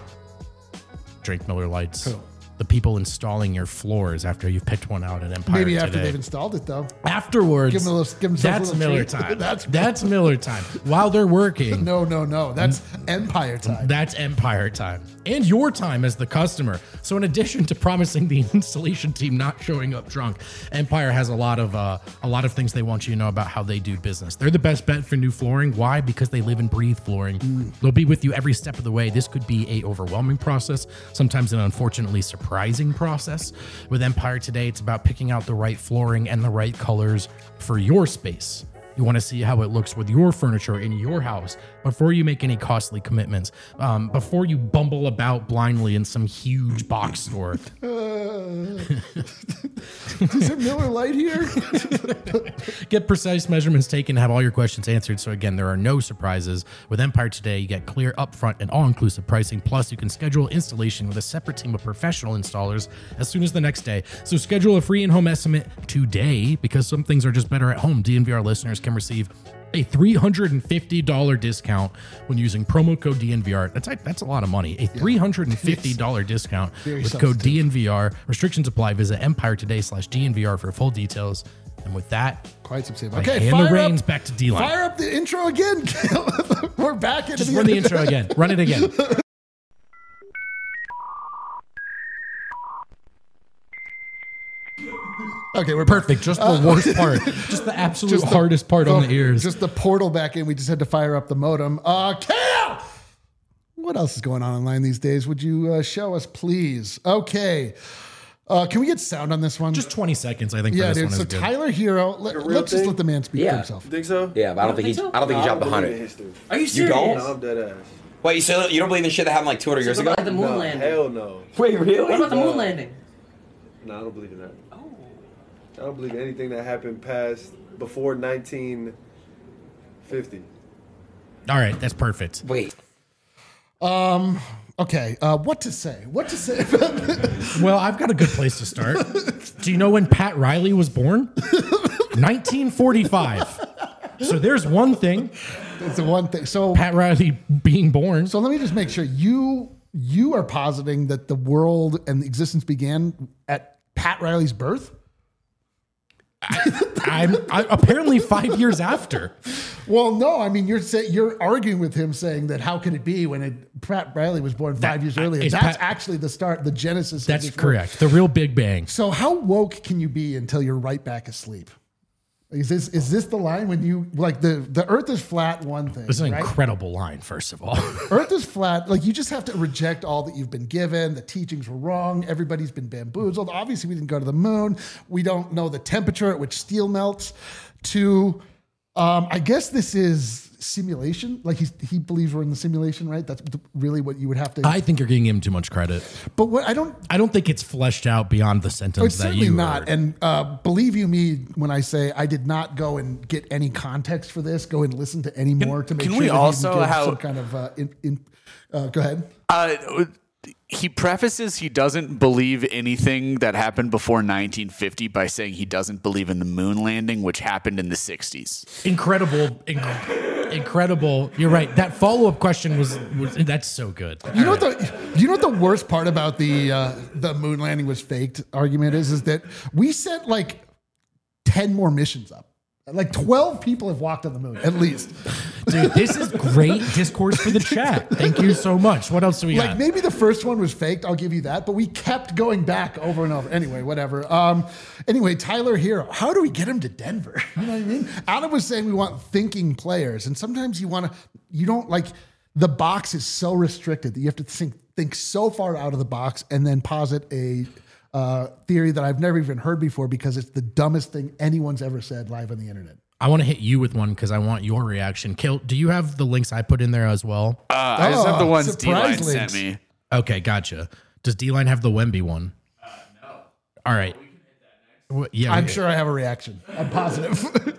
[SPEAKER 2] drink Miller Lights?
[SPEAKER 1] Who?
[SPEAKER 2] The people installing your floors after you've picked one out at Empire
[SPEAKER 1] Maybe after
[SPEAKER 2] today.
[SPEAKER 1] they've installed it, though.
[SPEAKER 2] Afterwards,
[SPEAKER 1] Give 'em a little- give 'em some
[SPEAKER 2] that's
[SPEAKER 1] little
[SPEAKER 2] Miller
[SPEAKER 1] treat.
[SPEAKER 2] time.
[SPEAKER 1] That's-
[SPEAKER 2] that's Miller time. While they're working,
[SPEAKER 1] No, no, no. That's Empire time.
[SPEAKER 2] that's Empire time. And your time as the customer. So in addition to promising the installation team not showing up drunk, Empire has a lot of uh, a lot of things they want you to know about how they do business. They're the best bet for new flooring. Why? Because they live and breathe flooring. They'll be with you every step of the way. This could be a overwhelming process, sometimes an unfortunately surprising process. With Empire today, it's about picking out the right flooring and the right colors for your space. You want to see how it looks with your furniture in your house before you make any costly commitments, um, before you bumble about blindly in some huge box store.
[SPEAKER 1] Uh, is there Miller Lite here?
[SPEAKER 2] Get precise measurements taken, have all your questions answered. So again, there are no surprises. With Empire Today, you get clear, upfront, and all-inclusive pricing. Plus, you can schedule installation with a separate team of professional installers as soon as the next day. So schedule a free in-home estimate today, because some things are just better at home. D N V R listeners can receive a three hundred fifty dollars discount when using promo code D N V R. That's that's a lot of money. A three hundred fifty dollars discount
[SPEAKER 1] Very
[SPEAKER 2] with code D N V R. Restrictions apply. Visit Empire Today slash D N V R for full details. And with that,
[SPEAKER 1] quite substantial.
[SPEAKER 2] I
[SPEAKER 1] Okay,
[SPEAKER 2] hand
[SPEAKER 1] fire
[SPEAKER 2] the reins
[SPEAKER 1] up,
[SPEAKER 2] back to D-Line.
[SPEAKER 1] Fire up the intro again. We're back into
[SPEAKER 2] Just
[SPEAKER 1] the
[SPEAKER 2] run the intro again. Run it again.
[SPEAKER 1] Okay, we're
[SPEAKER 2] Perfect. Just the worst part. Just the absolute
[SPEAKER 1] Just the-
[SPEAKER 2] hardest part on the ears.
[SPEAKER 1] Just the portal back in. We just had to fire up the modem. Uh, Kale! What else is going on online these days? Would you uh, show us, please? Okay. Uh, can we get sound on this one?
[SPEAKER 2] Just twenty seconds, I think,
[SPEAKER 1] yeah,
[SPEAKER 2] for this
[SPEAKER 1] dude.
[SPEAKER 2] one is
[SPEAKER 1] So
[SPEAKER 2] good.
[SPEAKER 1] Tyler Hero, let, let's just
[SPEAKER 4] thing?
[SPEAKER 1] let the man speak for
[SPEAKER 5] Yeah.
[SPEAKER 1] himself.
[SPEAKER 4] You think so?
[SPEAKER 5] Yeah, but I don't think he's. I don't think he jumped the
[SPEAKER 4] believe in
[SPEAKER 5] hundred.
[SPEAKER 4] history.
[SPEAKER 5] Are you serious?
[SPEAKER 4] No, I'm dead ass.
[SPEAKER 5] Wait, you still you don't believe in shit that happened like two hundred years
[SPEAKER 6] So
[SPEAKER 5] ago?
[SPEAKER 6] what about the moon
[SPEAKER 4] No,
[SPEAKER 6] landing?
[SPEAKER 4] hell no.
[SPEAKER 5] Wait, really?
[SPEAKER 6] What about the
[SPEAKER 4] No.
[SPEAKER 6] moon landing?
[SPEAKER 4] No, I don't believe in that.
[SPEAKER 6] Oh.
[SPEAKER 4] I don't believe anything that happened past before nineteen fifty.
[SPEAKER 2] All right, that's perfect.
[SPEAKER 5] Wait.
[SPEAKER 1] Um. Okay. Uh, what to say? What to say?
[SPEAKER 2] Well, I've got a good place to start. Do you know when Pat Riley was born? nineteen forty-five. So there's one thing.
[SPEAKER 1] It's the one thing. So,
[SPEAKER 2] Pat Riley being born.
[SPEAKER 1] so let me just make sure you you are positing that the world and existence began at Pat Riley's birth.
[SPEAKER 2] I'm I, apparently five years after.
[SPEAKER 1] Well, no, I mean you're say, you're arguing with him, saying that how could it be when it, Pat Riley was born five
[SPEAKER 2] That-
[SPEAKER 1] years earlier?
[SPEAKER 2] is
[SPEAKER 1] That's
[SPEAKER 2] Pat-
[SPEAKER 1] actually the start, the genesis. of
[SPEAKER 2] That's
[SPEAKER 1] this world.
[SPEAKER 2] correct. The real Big Bang.
[SPEAKER 1] So how woke can you be until you're right back asleep? Is this is this the line when you like the the Earth is flat? One thing,
[SPEAKER 2] This is an
[SPEAKER 1] right?
[SPEAKER 2] incredible line, first of all.
[SPEAKER 1] Earth is flat. Like you just have to reject all that you've been given. The teachings were wrong. Everybody's been bamboozled. Obviously, we didn't go to the moon. We don't know the temperature at which steel melts. To, um, I guess this is simulation. Like he's, he believes we're in the simulation, right? That's the- really what you would have to.
[SPEAKER 2] I think you're giving him too much credit.
[SPEAKER 1] but what I don't.
[SPEAKER 2] I don't think it's fleshed out beyond the sentence
[SPEAKER 1] It's
[SPEAKER 2] that
[SPEAKER 1] certainly
[SPEAKER 2] you
[SPEAKER 1] not.
[SPEAKER 2] heard.
[SPEAKER 1] And uh, believe you me when I say I did not go and get any context for this. Go and listen to any more to make
[SPEAKER 3] can
[SPEAKER 1] sure
[SPEAKER 3] we
[SPEAKER 1] that he
[SPEAKER 3] also
[SPEAKER 1] gives
[SPEAKER 3] have-
[SPEAKER 1] some kind of. Uh, in, in, uh, go ahead.
[SPEAKER 3] Uh, he prefaces he doesn't believe anything that happened before nineteen fifty by saying he doesn't believe in the moon landing, which happened in the sixties.
[SPEAKER 2] Incredible, inc- incredible. You're right. That follow up question was, was that's so good.
[SPEAKER 1] You know what the you know what the worst part about the uh, the moon landing was faked argument is is that we sent like ten more missions up. Like twelve people have walked on the moon at least.
[SPEAKER 2] Dude, this is great discourse for the chat. Thank you so much. What else do we
[SPEAKER 1] Like
[SPEAKER 2] got?
[SPEAKER 1] maybe the first one was faked, I'll give you that, but we kept going back over and over. Anyway, whatever. Um, anyway, Tyler Hero, how do we get him to Denver? You know what I mean? Adam was saying we want thinking players, and sometimes you want to, you don't like the box is so restricted that you have to think think so far out of the box and then posit a uh, theory that I've never even heard before because it's the dumbest thing anyone's ever said live on the internet.
[SPEAKER 2] I want to hit you with one because I want your reaction. Kill, do you have the links I put in there as well?
[SPEAKER 3] Uh, I just have the
[SPEAKER 1] Oh,
[SPEAKER 3] ones
[SPEAKER 1] surprise
[SPEAKER 3] D-Line sent
[SPEAKER 1] links.
[SPEAKER 3] me.
[SPEAKER 2] Okay, gotcha. Does D-Line have the Wemby one? Uh, no. All right. Well, yeah,
[SPEAKER 1] I'm
[SPEAKER 2] we-
[SPEAKER 1] sure I have a reaction. I'm positive.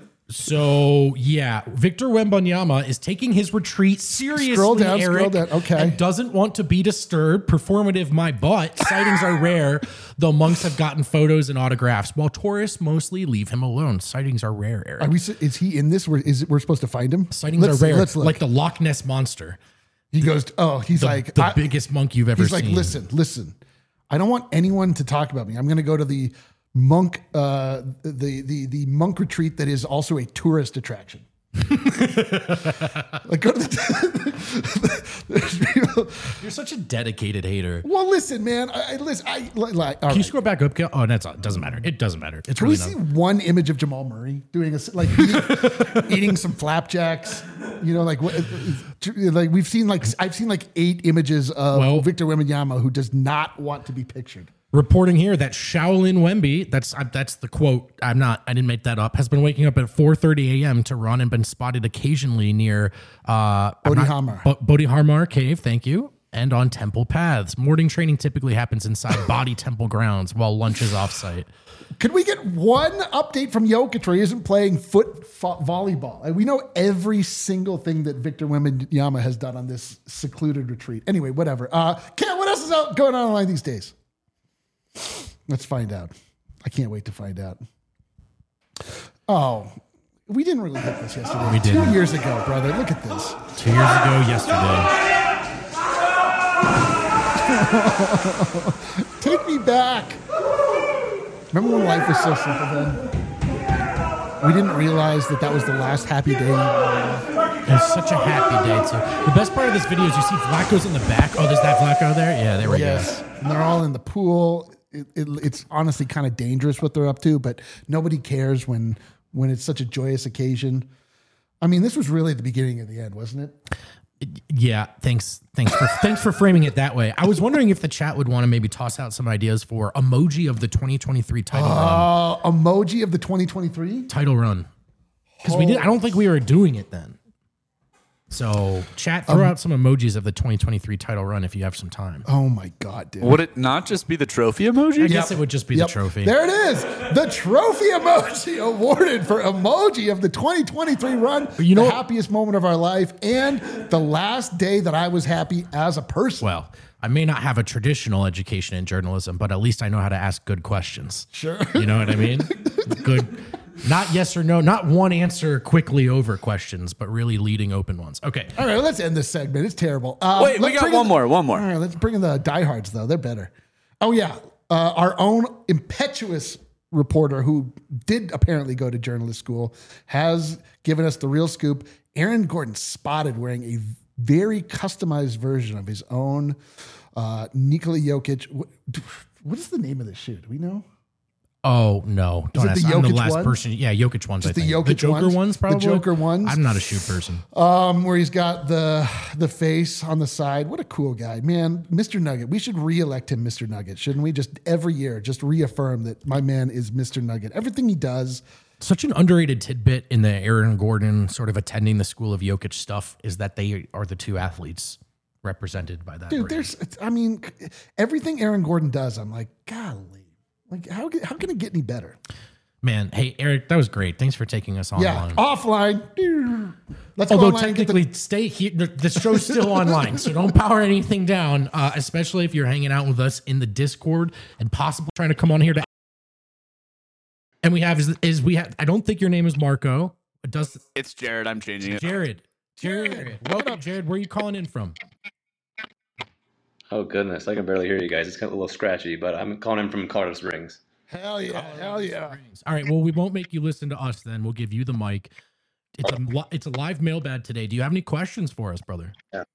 [SPEAKER 2] So yeah, Victor Wembanyama is taking his retreat seriously.
[SPEAKER 1] Scroll down,
[SPEAKER 2] Eric,
[SPEAKER 1] scroll down. Okay.
[SPEAKER 2] and doesn't want to be disturbed. Performative, my butt. Sightings are rare, though monks have gotten photos and autographs, while tourists mostly leave him alone. Sightings are rare, Eric.
[SPEAKER 1] Are we? Is he in this? We're, is it, we're supposed to find him?
[SPEAKER 2] Sightings
[SPEAKER 1] Let's-
[SPEAKER 2] are rare,
[SPEAKER 1] Let's look.
[SPEAKER 2] like the Loch Ness monster,
[SPEAKER 1] he goes. Oh, he's
[SPEAKER 2] the,
[SPEAKER 1] like
[SPEAKER 2] the
[SPEAKER 1] I-
[SPEAKER 2] biggest monk you've ever
[SPEAKER 1] He's
[SPEAKER 2] seen.
[SPEAKER 1] like, listen, listen. I don't want anyone to talk about me. I'm going to go to the monk, uh, the the the monk retreat that is also a tourist attraction. Like go to the. There's people-
[SPEAKER 2] You're such a dedicated hater.
[SPEAKER 1] well, listen, man. I, I listen. I like. All
[SPEAKER 2] Can you
[SPEAKER 1] right.
[SPEAKER 2] scroll back up? Gil? Oh, that's it doesn't matter. It doesn't matter. It's
[SPEAKER 1] Can we
[SPEAKER 2] really
[SPEAKER 1] see
[SPEAKER 2] not.
[SPEAKER 1] one image of Jamal Murray doing a like eating, eating some flapjacks? You know, like what? Like we've seen like I've seen like eight images of
[SPEAKER 2] Well-
[SPEAKER 1] Victor Wembanyama who does not want to be pictured.
[SPEAKER 2] Reporting here that Shaolin Wemby, that's uh, that's the quote. I'm not. I didn't make that up. Has been waking up at four thirty a.m. to run and been spotted occasionally near uh,
[SPEAKER 1] Bodhidharma.
[SPEAKER 2] Bo- Bodhidharma Cave. Thank you. And on temple paths. Morning training typically happens inside body temple grounds while lunch is offsite.
[SPEAKER 1] Could we get one update from Jokic where he isn't playing foot fo- volleyball? And we know every single thing that Victor Wembanyama has done on this secluded retreat. Anyway, whatever. Uh, Ken, what else is out going on online these days? Let's find out. I can't wait to find out. Oh, we didn't really hit this yesterday.
[SPEAKER 2] We
[SPEAKER 1] Two
[SPEAKER 2] didn't.
[SPEAKER 1] years ago, brother. Look at this.
[SPEAKER 2] Two years ago yesterday.
[SPEAKER 1] Take me back. Remember when life was so simple then? We didn't realize that that was the last happy day.
[SPEAKER 2] It was such a happy day, too. The best part of this video is you see Flacco's in the back. Oh, there's that Flacco there? Yeah, there we
[SPEAKER 1] Yes.
[SPEAKER 2] go.
[SPEAKER 1] And they're all in the pool. It, it, it's honestly kind of dangerous what they're up to, but nobody cares when when it's such a joyous occasion. I mean, this was really the beginning of the end, wasn't it?
[SPEAKER 2] Yeah, thanks. Thanks for thanks for framing it that way. I was wondering if the chat would want to maybe toss out some ideas for emoji of the twenty twenty-three title run.
[SPEAKER 1] Uh, emoji of the twenty twenty-three?
[SPEAKER 2] Title run. Because we did I don't think we were doing it then. So chat, throw
[SPEAKER 1] Um,
[SPEAKER 2] out some emojis of the twenty twenty-three title run if you have some time.
[SPEAKER 1] Oh my God, dude.
[SPEAKER 3] Would it not just be the trophy emoji?
[SPEAKER 2] I guess it would just be
[SPEAKER 1] Yep.
[SPEAKER 2] the trophy.
[SPEAKER 1] There it is. The trophy emoji awarded for emoji of the twenty twenty-three run.
[SPEAKER 2] You know-
[SPEAKER 1] the happiest moment of our life and the last day that I was happy as a person.
[SPEAKER 2] Well, I may not have a traditional education in journalism, but at least I know how to ask good questions.
[SPEAKER 1] Sure.
[SPEAKER 2] You know what I mean? Good. Not yes or no, not one answer quickly over questions, but really leading open ones. Okay.
[SPEAKER 1] All right, let's end this segment. It's terrible. Um,
[SPEAKER 3] Wait, we
[SPEAKER 1] let's
[SPEAKER 3] got
[SPEAKER 1] bring
[SPEAKER 3] one
[SPEAKER 1] in-
[SPEAKER 3] more, one more.
[SPEAKER 1] All right, let's bring in the diehards, though. They're better. Oh, yeah. Uh, our own impetuous reporter who did apparently go to journalist school has given us the real scoop. Aaron Gordon spotted wearing a very customized version of his own uh, Nikola Jokic. What, what is the name of this shoe? Do we know?
[SPEAKER 2] Oh no! Don't
[SPEAKER 1] it
[SPEAKER 2] ask.
[SPEAKER 1] the
[SPEAKER 2] I'm the
[SPEAKER 1] Jokic
[SPEAKER 2] last
[SPEAKER 1] one?
[SPEAKER 2] person. Yeah, Jokic ones.
[SPEAKER 1] Just
[SPEAKER 2] I
[SPEAKER 1] the
[SPEAKER 2] think.
[SPEAKER 1] Jokic
[SPEAKER 2] Joker
[SPEAKER 1] ones?
[SPEAKER 2] ones.
[SPEAKER 1] The
[SPEAKER 2] Probably
[SPEAKER 1] Joker ones?
[SPEAKER 2] I'm not a shoe person.
[SPEAKER 1] Um, where he's got the the face on the side. What a cool guy, man. Mister Nugget. We should re-elect him Mister Nugget, shouldn't we? Just every year, just reaffirm that my man is Mister Nugget. Everything he does.
[SPEAKER 2] Such an underrated tidbit in the Aaron Gordon sort of attending the school of Jokic stuff is that they are the two athletes represented by that.
[SPEAKER 1] Dude,
[SPEAKER 2] brand.
[SPEAKER 1] there's, I mean, everything Aaron Gordon does, I'm like, golly. Like, how, how can it get any better?
[SPEAKER 2] Man, hey Eric, that was great. Thanks for taking us online.
[SPEAKER 1] Yeah, offline. Let's
[SPEAKER 2] Although
[SPEAKER 1] go online and get
[SPEAKER 2] technically,
[SPEAKER 1] the,
[SPEAKER 2] stay here. The, the show's still online, so don't power anything down. Uh, especially if you're hanging out with us in the Discord and possibly trying to come on here to. And we have is, is we have. I don't think your name is Marco. It does.
[SPEAKER 3] It's Jared. I'm changing it.
[SPEAKER 2] Jared. Jared. Welcome, Jared. Where are you calling in from?
[SPEAKER 6] Oh goodness, I can barely hear you guys. It's kind of a little scratchy, but I'm calling in from Colorado Springs.
[SPEAKER 1] hell yeah, hell yeah.
[SPEAKER 2] All right. Well, we won't make you listen to us. Then we'll give you the mic. It's a li- it's a live mailbag today. Do you have any questions for us, brother?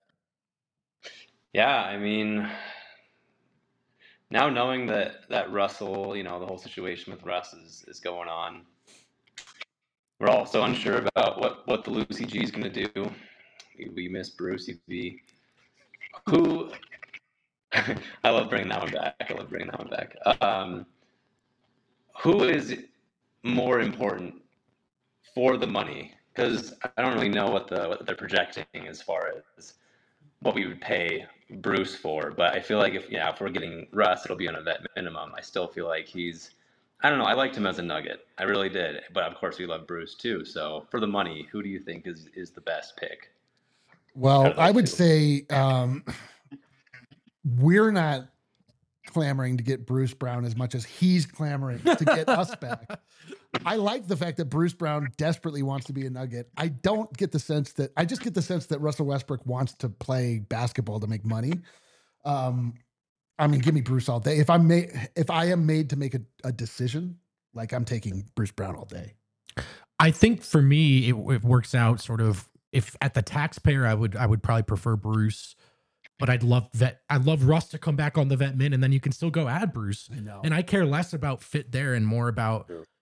[SPEAKER 6] Yeah, I mean, now knowing that that Russell, you know, the whole situation with Russ is, is going on, we're also unsure about what, what the Lucy G is going to do. We, we miss Bruce E B. Who, I love bringing that one back. I love bringing that one back. Um, who is more important for the money? Because I don't really know what the what they're projecting as far as what we would pay Bruce for, but I feel like if yeah, if we're getting Russ, it'll be on a vet minimum. I still feel like he's, I don't know, I liked him as a Nugget, I really did, but of course we love Bruce too. So for the money, who do you think is is the best pick?
[SPEAKER 1] Well, I would say um, we're not clamoring to get Bruce Brown as much as he's clamoring to get us back. I like the fact that Bruce Brown desperately wants to be a Nugget. I don't get the sense that I just get the sense that Russell Westbrook wants to play basketball to make money. Um, I mean, give me Bruce all day. If I'm made, if I am made to make a, a decision, like I'm taking Bruce Brown all day.
[SPEAKER 2] I think for me, it, it works out sort of. If at the taxpayer, I would I would probably prefer Bruce, but I'd love vet. I'd love Russ to come back on the vet min, and then you can still go add Bruce.
[SPEAKER 1] I know.
[SPEAKER 2] And I care less about fit there and more about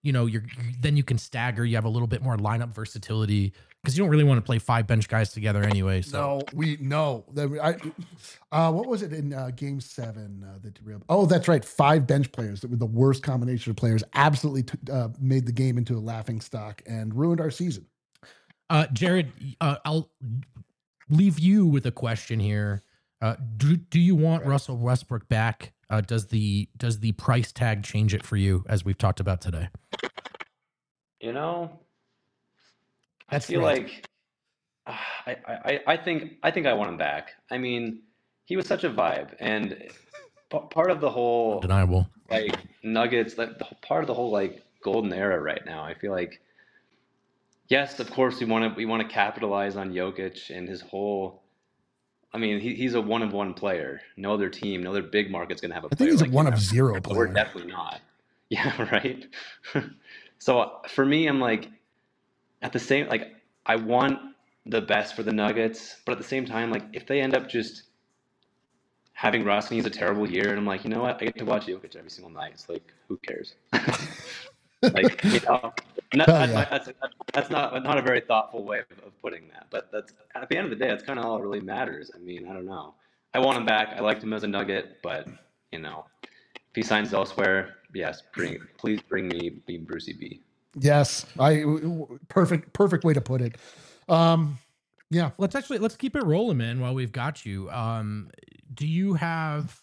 [SPEAKER 2] you know, you're then you can stagger. You have a little bit more lineup versatility because you don't really want to play five bench guys together anyway. So
[SPEAKER 1] No, we no. I, uh, what was it in uh, Game Seven? Uh, that derailed? Oh, that's right. Five bench players that were the worst combination of players. Absolutely t- uh, made the game into a laughing stock and ruined our season.
[SPEAKER 2] Uh, Jared, uh, I'll leave you with a question here. Uh, do do you want Russell Westbrook back? Uh, does the does the price tag change it for you, as we've talked about today?
[SPEAKER 6] You know,
[SPEAKER 1] That's
[SPEAKER 6] I feel
[SPEAKER 1] right.
[SPEAKER 6] like uh, I, I I think I think I want him back. I mean, he was such a vibe, and p- part of the whole
[SPEAKER 2] Undeniable.
[SPEAKER 6] like Nuggets, like the part of the whole like golden era right now. I feel like, yes, of course we want to we want to capitalize on Jokic and his whole. I mean, he, he's a one of one player. No other team, no other big market's going to have a
[SPEAKER 1] I
[SPEAKER 6] player
[SPEAKER 1] think he's
[SPEAKER 6] like
[SPEAKER 1] a one
[SPEAKER 6] him.
[SPEAKER 1] of zero
[SPEAKER 6] We're
[SPEAKER 1] player.
[SPEAKER 6] definitely not. Yeah, right. So for me, I'm like, at the same, like, I want the best for the Nuggets, but at the same time, like, if they end up just having Russ and he's a terrible year, and I'm like, you know what, I get to watch Jokic every single night. It's like, who cares? Like, you know, not,
[SPEAKER 1] Hell
[SPEAKER 6] that's,
[SPEAKER 1] yeah.
[SPEAKER 6] that's, that's not not a very thoughtful way of, of putting that. But that's at the end of the day, that's kind of all that really matters. I mean, I don't know. I want him back. I liked him as a Nugget, but you know, if he signs elsewhere, yes, bring please bring me be Brucey B.
[SPEAKER 1] Yes, I perfect perfect way to put it. Um, yeah,
[SPEAKER 2] Let's actually let's keep it rolling, man. While we've got you, um, do you have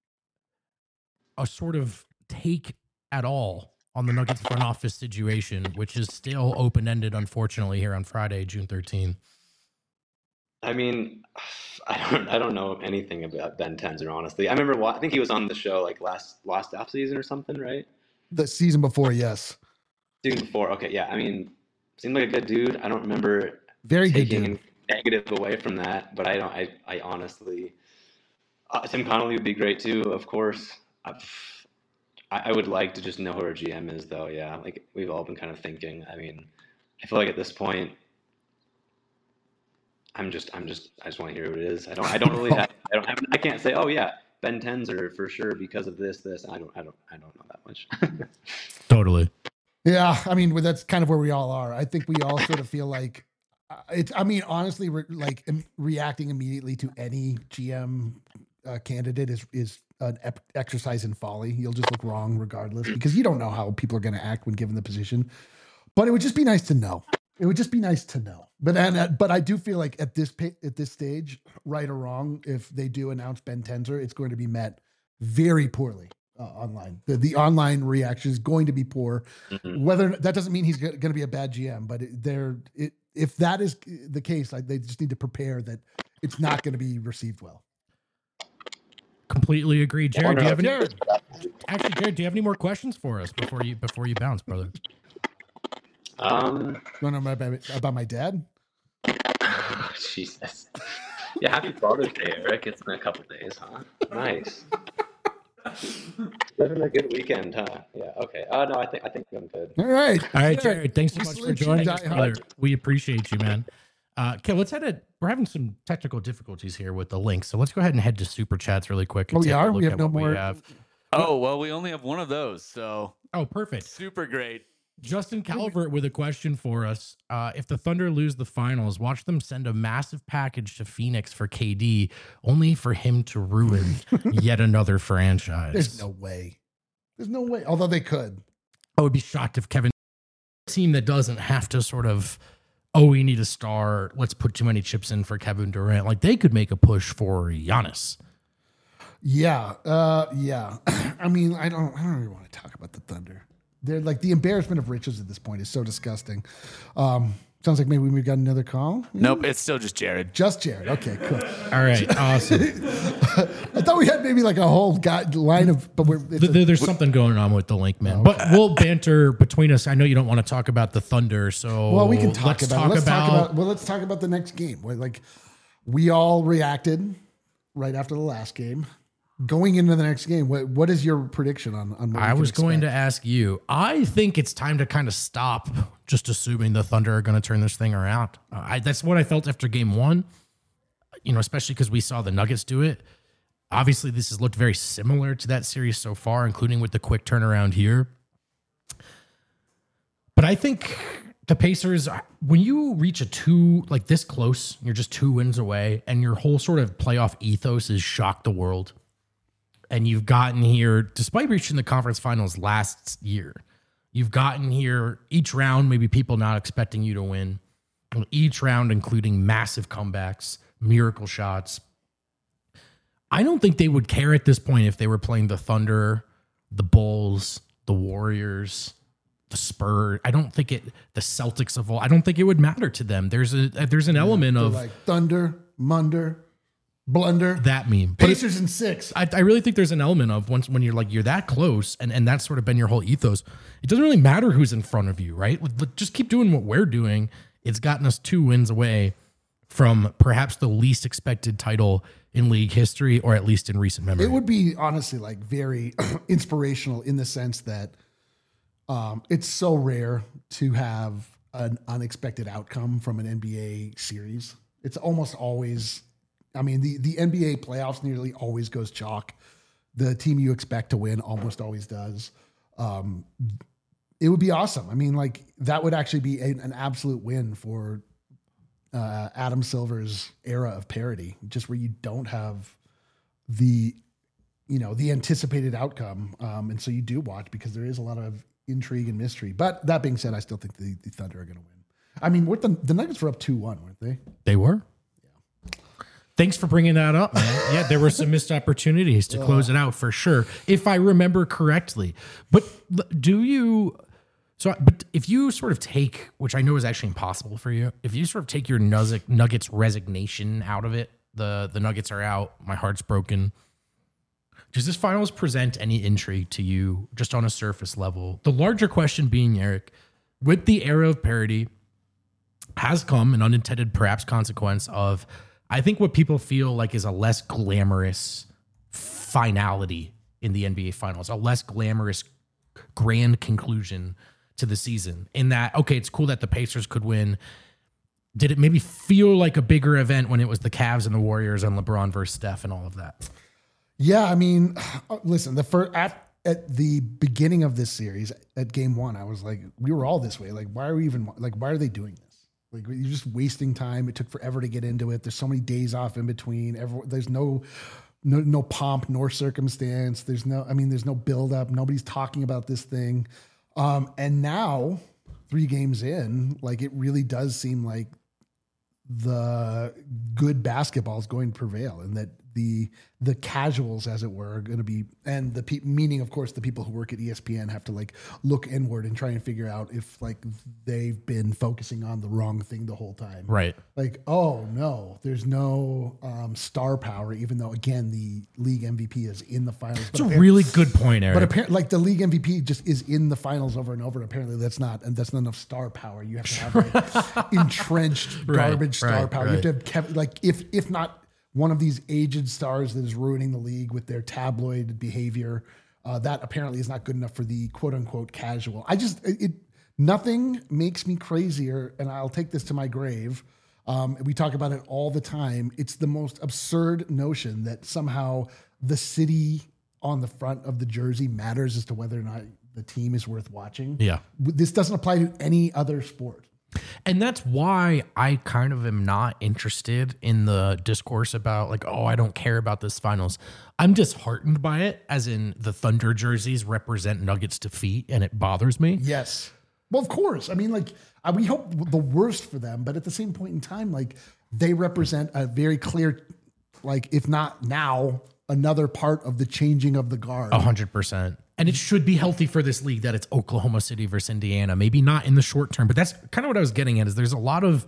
[SPEAKER 2] a sort of take at all on the Nuggets front office situation, which is still open ended, unfortunately, here on Friday, June thirteenth?
[SPEAKER 6] I mean, I don't I don't know anything about Ben Tenzer, honestly. I remember wa- I think he was on the show like last last off season or something, right?
[SPEAKER 1] the season before, yes,
[SPEAKER 6] Season before. Okay, yeah. I mean, seemed like a good dude. I don't remember
[SPEAKER 1] very good
[SPEAKER 6] taking
[SPEAKER 1] dude.
[SPEAKER 6] negative away from that, but I don't. I I honestly, uh, Tim Connolly would be great too, of course. I've, I I would like to just know who our G M is, though. Yeah, like we've all been kind of thinking. I mean, I feel like at this point, I'm just I'm just I just want to hear who it is. I don't I don't really have I don't have I can't say oh yeah Ben Tenzer for sure because of this this I don't I don't I don't know that much.
[SPEAKER 2] Totally.
[SPEAKER 1] Yeah, I mean, well, that's kind of where we all are. I think we all sort of feel like uh, it's. I mean, honestly, re- like im- reacting immediately to any G M uh, candidate is is an ep- exercise in folly. You'll just look wrong regardless because you don't know how people are going to act when given the position. But it would just be nice to know. It would just be nice to know. But and uh, but I do feel like at this pa- at this stage, right or wrong, if they do announce Ben Tenzer, it's going to be met very poorly. Uh, online, the, the online reaction is going to be poor.
[SPEAKER 6] Mhm.
[SPEAKER 1] Whether that doesn't mean he's going to be a bad G M, but it, they're it, if that is the case, like they just need to prepare that it's not going to be received well.
[SPEAKER 2] Completely agree. Jared, do you have any
[SPEAKER 1] Jared.
[SPEAKER 2] actually Jared, do you have any more questions for us before you before you bounce, brother?
[SPEAKER 6] Um,
[SPEAKER 1] You want to know about, about my dad?
[SPEAKER 6] Jesus. Yeah, happy Father's Day, Eric. It's been a couple days, huh? Nice. Living a good weekend, huh? Yeah. Okay. Uh, no, I think I think I'm good.
[SPEAKER 1] All right,
[SPEAKER 2] All right,
[SPEAKER 1] Jared,
[SPEAKER 2] Jared, thanks so
[SPEAKER 1] we
[SPEAKER 2] much for
[SPEAKER 1] salute you,
[SPEAKER 2] joining us,
[SPEAKER 1] Die Hard.
[SPEAKER 2] brother. We appreciate you, man. Uh, okay, let's head it. We're having some technical difficulties here with the link, so let's go ahead and head to super chats really quick. and
[SPEAKER 1] Oh, we
[SPEAKER 2] take a
[SPEAKER 1] are?
[SPEAKER 2] look
[SPEAKER 1] We have
[SPEAKER 2] at
[SPEAKER 1] no
[SPEAKER 2] what
[SPEAKER 1] more-
[SPEAKER 2] have.
[SPEAKER 3] Oh, well, we only have one of those, so
[SPEAKER 2] Oh, perfect.
[SPEAKER 3] super great.
[SPEAKER 2] Justin Calvert with a question for us. Uh, if the Thunder lose the finals, watch them send a massive package to Phoenix for K D, only for him to ruin yet another franchise.
[SPEAKER 1] There's no way. There's no way. Although they could.
[SPEAKER 2] I would be shocked if Kevin, a team that doesn't have to sort of, oh, we need a star, let's put too many chips in for Kevin Durant. Like they could make a push for Giannis.
[SPEAKER 1] Yeah. Uh, yeah. I mean, I don't. I don't really want to talk about the Thunder. They're like the embarrassment of riches at this point is so disgusting. Um, sounds like maybe we got another call.
[SPEAKER 3] Nope, it's still just Jared.
[SPEAKER 1] Just Jared. Okay, cool.
[SPEAKER 2] All right, awesome.
[SPEAKER 1] I thought we had maybe like a whole guy, line of, but we're it's
[SPEAKER 2] Th-
[SPEAKER 1] a-
[SPEAKER 2] th- There's something going on with the link, man. But we'll banter between us. I know you don't want to talk about the Thunder, so
[SPEAKER 1] well, we can talk
[SPEAKER 2] let's
[SPEAKER 1] about.
[SPEAKER 2] talk
[SPEAKER 1] it. Let's
[SPEAKER 2] about,
[SPEAKER 1] talk about. Well, let's talk about the next game. Where, like we all reacted right after the last game. Going into the next game, what what is your prediction on? on what we
[SPEAKER 2] I
[SPEAKER 1] can
[SPEAKER 2] was going to
[SPEAKER 1] expect?
[SPEAKER 2] ask you. I think it's time to kind of stop just assuming the Thunder are going to turn this thing around. Uh, I, that's what I felt after game one, you know, especially because we saw the Nuggets do it. Obviously, this has looked very similar to that series so far, including with the quick turnaround here. But I think the Pacers, when you reach a two, like this close, you're just two wins away, and your whole sort of playoff ethos is shock the world. And you've gotten here, despite reaching the conference finals last year, you've gotten here each round, maybe people not expecting you to win. Each round, including massive comebacks, miracle shots. I don't think they would care at this point if they were playing the Thunder, the Bulls, the Warriors, the Spurs. I don't think it, the Celtics of all, I don't think it would matter to them. There's a, there's an element
[SPEAKER 1] They're
[SPEAKER 2] of
[SPEAKER 1] like Thunder, Munder, Blunder,
[SPEAKER 2] that meme. But
[SPEAKER 1] Pacers in six.
[SPEAKER 2] I, I really think there's an element of once when you're like, you're that close and, and that's sort of been your whole ethos. It doesn't really matter who's in front of you, right? Just keep doing what we're doing. It's gotten us two wins away from perhaps the least expected title in league history, or at least in recent memory.
[SPEAKER 1] It would be honestly like very inspirational in the sense that um, it's so rare to have an unexpected outcome from an N B A series. It's almost always, I mean, the, the N B A playoffs nearly always goes chalk. The team you expect to win almost always does. Um, it would be awesome. I mean, like that would actually be a, an absolute win for uh, Adam Silver's era of parity, just where you don't have the, you know, the anticipated outcome. Um, and so you do watch because there is a lot of intrigue and mystery. But that being said, I still think the, the Thunder are going to win. I mean, what the, the Nuggets were up two one, weren't they?
[SPEAKER 2] They were. Yeah. Thanks for bringing that up, man. Yeah, there were some missed opportunities to close it out for sure, if I remember correctly. But do you... So, but if you sort of take, which I know is actually impossible for you, if you sort of take your Nuggets resignation out of it, the, the Nuggets are out, my heart's broken. Does this finals present any intrigue to you just on a surface level? The larger question being, Eric, with the era of parity has come an unintended perhaps consequence of, I think what people feel like is a less glamorous finality in the N B A finals, a less glamorous grand conclusion to the season, in that, okay, it's cool that the Pacers could win. Did it maybe feel like a bigger event when it was the Cavs and the Warriors and LeBron versus Steph and all of that?
[SPEAKER 1] Yeah, I mean, listen, the first at at the beginning of this series, at game one, I was like, we were all this way. Like, why are we even like, why are they doing this? Like, you're just wasting time. It took forever to get into it. There's so many days off in between. Everyone, there's no no no pomp nor circumstance. There's no, I mean, there's no build up. Nobody's talking about this thing. Um, and now, three games in, like it really does seem like the good basketball is going to prevail, and that the the casuals, as it were, are going to be, and the pe- meaning, of course, the people who work at E S P N have to like look inward and try and figure out if like they've been focusing on the wrong thing the whole time.
[SPEAKER 2] Right.
[SPEAKER 1] Like, oh no, there's no um, star power, even though again the league M V P is in the finals.
[SPEAKER 2] It's a really good point, Eric.
[SPEAKER 1] But apparently, like the league M V P just is in the finals over and over. And apparently, that's not, and that's not enough star power. You have to have like entrenched garbage
[SPEAKER 2] right,
[SPEAKER 1] star
[SPEAKER 2] right,
[SPEAKER 1] power.
[SPEAKER 2] right.
[SPEAKER 1] You have to have Kevin, like if if not one of these aged stars that is ruining the league with their tabloid behavior. Uh, that apparently is not good enough for the quote unquote casual. I just, it, it nothing makes me crazier, and I'll take this to my grave. Um, we talk about it all the time. It's the most absurd notion that somehow the city on the front of the jersey matters as to whether or not the team is worth watching.
[SPEAKER 2] Yeah.
[SPEAKER 1] This doesn't apply to any other sport.
[SPEAKER 2] And that's why I kind of am not interested in the discourse about like, oh, I don't care about this finals. I'm disheartened by it, as in the Thunder jerseys represent Nuggets defeat, and it bothers me.
[SPEAKER 1] Yes. Well, of course. I mean, like, I, we hope the worst for them, but at the same point in time, like, they represent a very clear, like, if not now, another part of the changing of the guard.
[SPEAKER 2] A hundred percent. And it should be healthy for this league that it's Oklahoma City versus Indiana. Maybe not in the short term, but that's kind of what I was getting at. Is there's a lot of,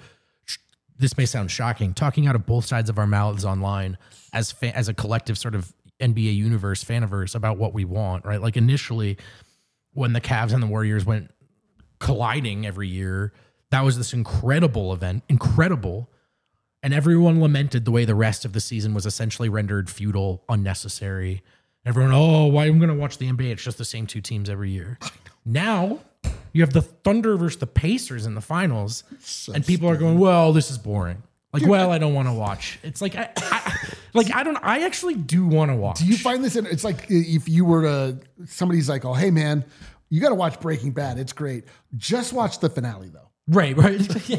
[SPEAKER 2] this may sound shocking, talking out of both sides of our mouths online as fa- as a collective sort of N B A universe, faniverse about what we want, right? Like initially, when the Cavs and the Warriors went colliding every year, that was this incredible event, incredible. And everyone lamented the way the rest of the season was essentially rendered futile, unnecessary. Everyone, oh, why am I going to watch the N B A? It's just the same two teams every year. Now you have the Thunder versus the Pacers in the finals, so and people stupid. are going, well, this is boring. Like, Dude, well, I don't want to watch. It's like, I, I, like I don't. I actually do want to watch.
[SPEAKER 1] Do you find this? In, it's like if you were to, somebody's like, oh, hey man, You got to watch Breaking Bad. It's great. Just watch the finale though.
[SPEAKER 2] Right, right.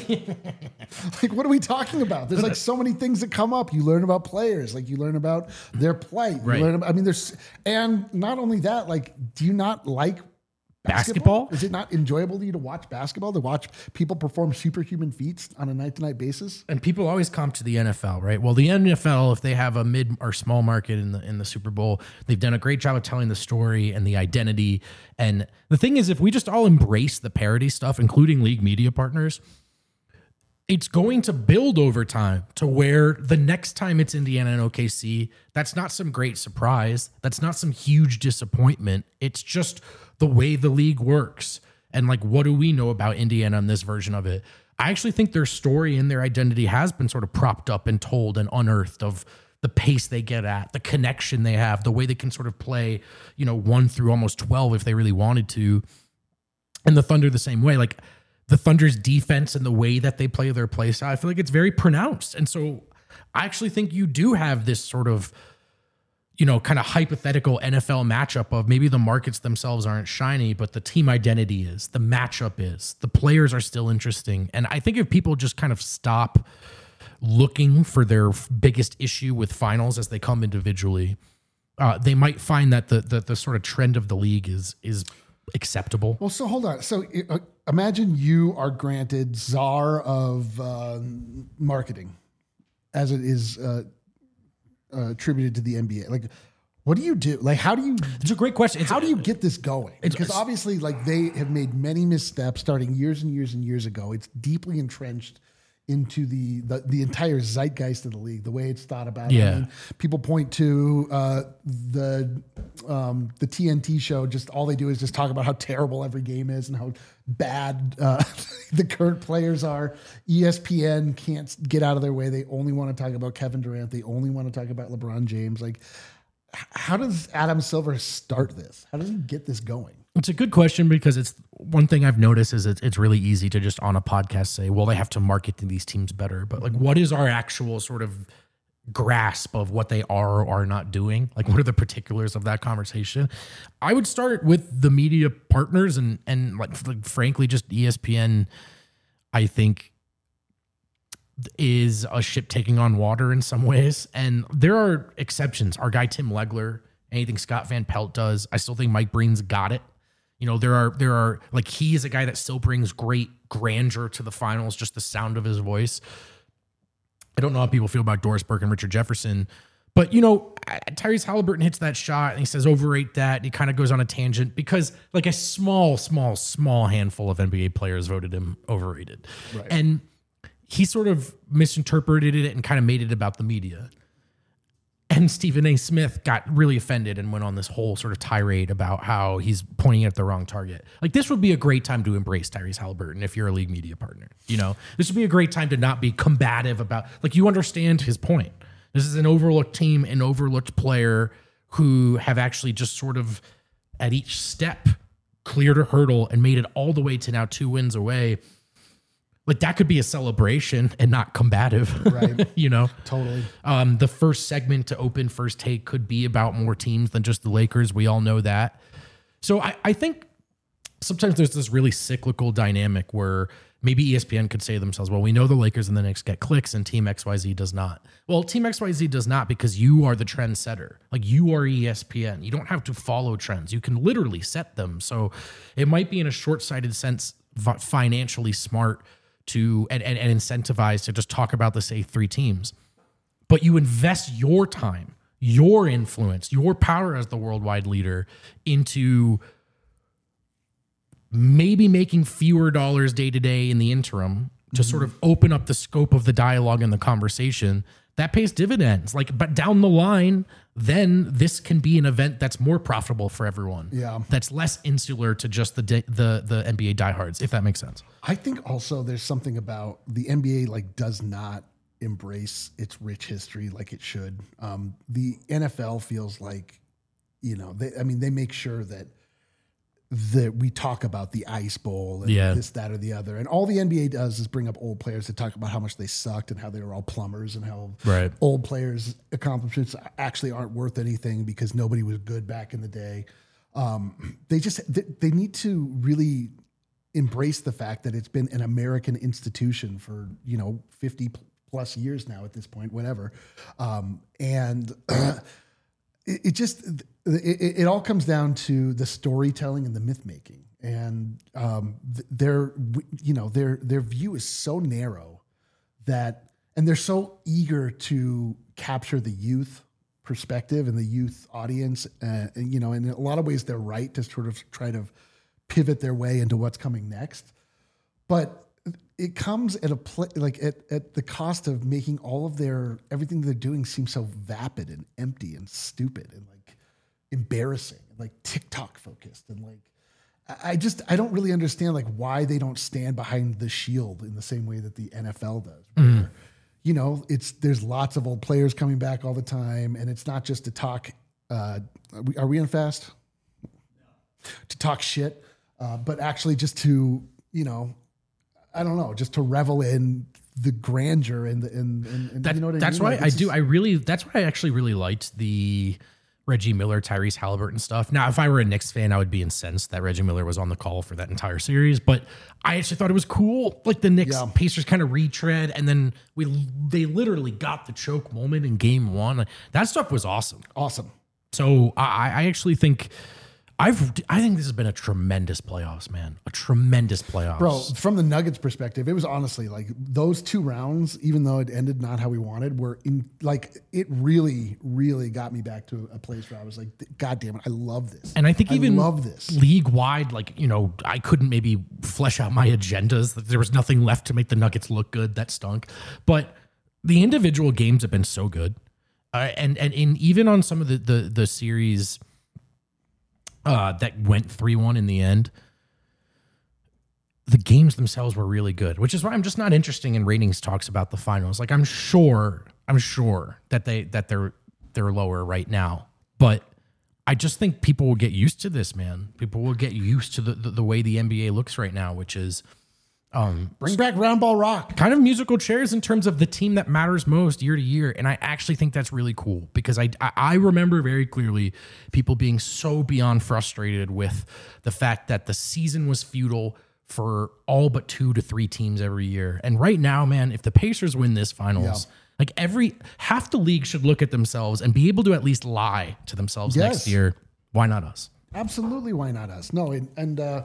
[SPEAKER 1] Like, what are we talking about? There's like so many things that come up. You learn about players, like you learn about their plight. You
[SPEAKER 2] Right.
[SPEAKER 1] learn about, I mean, there's, and not only that, like, do you not like
[SPEAKER 2] Basketball?
[SPEAKER 1] Is it not enjoyable to you to watch basketball, to watch people perform superhuman feats on a night to night basis?
[SPEAKER 2] And people always comp to the N F L, right? Well, the N F L, if they have a mid or small market in the in the Super Bowl, they've done a great job of telling the story and the identity. And the thing is, if we just all embrace the parody stuff, including league media partners, it's going to build over time to where the next time it's Indiana and O K C, that's not some great surprise. That's not some huge disappointment. It's just the way the league works. And like, what do we know about Indiana in this version of it? I actually think their story and their identity has been sort of propped up and told and unearthed of the pace they get at, the connection they have, the way they can sort of play, you know, one through almost twelve if they really wanted to. And the Thunder the same way. Like, the Thunder's defense and the way that they play their play style, I feel like it's very pronounced. And so I actually think you do have this sort of, you know, kind of hypothetical N F L matchup of maybe the markets themselves aren't shiny, but the team identity is, the matchup is, the players are still interesting. And I think if people just kind of stop looking for their biggest issue with finals as they come individually, uh, they might find that the, the the sort of trend of the league is is acceptable.
[SPEAKER 1] Well, so hold on. So uh, imagine you are granted czar of uh, marketing, as it is uh, uh, attributed to the N B A. Like, what do you do? Like, how do you?
[SPEAKER 2] It's a great question. It's
[SPEAKER 1] how do you get this going?
[SPEAKER 2] It's-
[SPEAKER 1] Because
[SPEAKER 2] it's-
[SPEAKER 1] obviously, like, they have made many missteps starting years and years and years ago. It's deeply entrenched into the, the the entire zeitgeist of the league, the way it's thought about.
[SPEAKER 2] Yeah.
[SPEAKER 1] I mean, people point to uh, the um, the T N T show. Just all they do is just talk about how terrible every game is and how bad uh, the current players are. E S P N can't get out of their way. They only want to talk about Kevin Durant. They only want to talk about LeBron James. Like, h- how does Adam Silver start this? How does he get this going?
[SPEAKER 2] It's a good question because it's one thing I've noticed is it's, it's really easy to just on a podcast say, well, they have to market to these teams better. But like, what is our actual sort of grasp of what they are or are not doing? Like, what are the particulars of that conversation? I would start with the media partners and, and like, like frankly, just E S P N, I think, is a ship taking on water in some ways. And there are exceptions. Our guy, Tim Legler, anything Scott Van Pelt does, I still think Mike Breen's got it. You know, there are, there are like, he is a guy that still brings great grandeur to the finals, just the sound of his voice. I don't know how people feel about Doris Burke and Richard Jefferson, but you know, Tyrese Halliburton hits that shot and he says, overrate that. And he kind of goes on a tangent because like a small, small, small handful of N B A players voted him overrated.
[SPEAKER 1] Right.
[SPEAKER 2] And he sort of misinterpreted it and kind of made it about the media. And Stephen A. Smith got really offended and went on this whole sort of tirade about how he's pointing at the wrong target. Like, this would be a great time to embrace Tyrese Halliburton if you're a league media partner. You know, this would be a great time to not be combative about, like, you understand his point. This is an overlooked team, an overlooked player who have actually just sort of at each step cleared a hurdle and made it all the way to now two wins away. Like, that could be a celebration and not combative,
[SPEAKER 1] Right.
[SPEAKER 2] you know?
[SPEAKER 1] Totally.
[SPEAKER 2] Um, the first segment to open First Take could be about more teams than just the Lakers. We all know that. So I, I think sometimes there's this really cyclical dynamic where maybe E S P N could say to themselves, well, we know the Lakers and the Knicks get clicks and Team X Y Z does not. Well, Team X Y Z does not because you are the trendsetter. Like, you are E S P N. You don't have to follow trends. You can literally set them. So it might be in a short-sighted sense financially smart to and, and, and incentivize to just talk about the say three teams. But you invest your time, your influence, your power as the worldwide leader into maybe making fewer dollars day to day in the interim to mm-hmm. sort of open up the scope of the dialogue and the conversation. That pays dividends. Like, but down the line, then this can be an event that's more profitable for everyone.
[SPEAKER 1] Yeah.
[SPEAKER 2] That's less insular to just the the the N B A diehards, if that makes sense.
[SPEAKER 1] I think also there's something about the N B A like does not embrace its rich history like it should. Um, the N F L feels like, you know, they, I mean, they make sure that that we talk about the Ice Bowl and
[SPEAKER 2] Yeah.
[SPEAKER 1] this, that, or the other. And all the N B A does is bring up old players to talk about how much they sucked and how they were all plumbers and how
[SPEAKER 2] Right.
[SPEAKER 1] old players' accomplishments actually aren't worth anything because nobody was good back in the day. um, they just they, they need to really embrace the fact that it's been an American institution for, you know, fifty plus years now at this point, whatever. Um, and it, it just, it, it all comes down to the storytelling and the myth making. And um, their, you know, their, their view is so narrow that, and they're so eager to capture the youth perspective and the youth audience. Uh, and, you know, in a lot of ways they're right to sort of try to pivot their way into what's coming next. But it comes at a pl- like at, at the cost of making all of their, everything they're doing seem so vapid and empty and stupid and like embarrassing and like TikTok focused. And like, I just, I don't really understand like why they don't stand behind the shield in the same way that the N F L does. Where, mm. you know, it's, there's lots of old players coming back all the time. And it's not just to talk, uh, are we, are we in fast? No. To talk shit, uh, but actually just to, you know, I don't know, just to revel in the grandeur and the, and, and, and
[SPEAKER 2] that,
[SPEAKER 1] you know what I
[SPEAKER 2] that's
[SPEAKER 1] mean?
[SPEAKER 2] why
[SPEAKER 1] Like,
[SPEAKER 2] I do. I really, that's why I actually really liked the Reggie Miller, Tyrese Halliburton stuff. Now, if I were a Knicks fan, I would be incensed that Reggie Miller was on the call for that entire series, but I actually thought it was cool. Like the Knicks
[SPEAKER 1] Yeah.
[SPEAKER 2] Pacers kind of retread, and then we, they literally got the choke moment in game one. That stuff was awesome.
[SPEAKER 1] Awesome.
[SPEAKER 2] So I, I actually think I've, I think this has been a tremendous playoffs, man. A tremendous playoffs.
[SPEAKER 1] Bro, from the Nuggets perspective, it was honestly like those two rounds, even though it ended not how we wanted, were in like, it really, really got me back to a place where I was like, God damn it, I love this.
[SPEAKER 2] And I think even
[SPEAKER 1] I love this.
[SPEAKER 2] league wide, like, you know, I couldn't maybe flesh out my agendas. There was nothing left to make the Nuggets look good. That stunk. But the individual games have been so good. Uh, and, and in even on some of the, the, the series Uh, that went three one in the end, the games themselves were really good, which is why I'm just not interested in ratings talks about the finals. Like I'm sure, I'm sure that they that they're they're lower right now, but I just think people will get used to this, man. People will get used to the the, the way the N B A looks right now, which is um,
[SPEAKER 1] bring back round ball rock.
[SPEAKER 2] Kind of musical chairs in terms of the team that matters most year to year. And I actually think that's really cool because I, I remember very clearly people being so beyond frustrated with the fact that the season was futile for all but two to three teams every year. And right now, man, if the Pacers win this finals, yeah. like every half the league should look at themselves and be able to at least lie to themselves yes. next year. Why not us?
[SPEAKER 1] Absolutely. Why not us? No. And, and uh,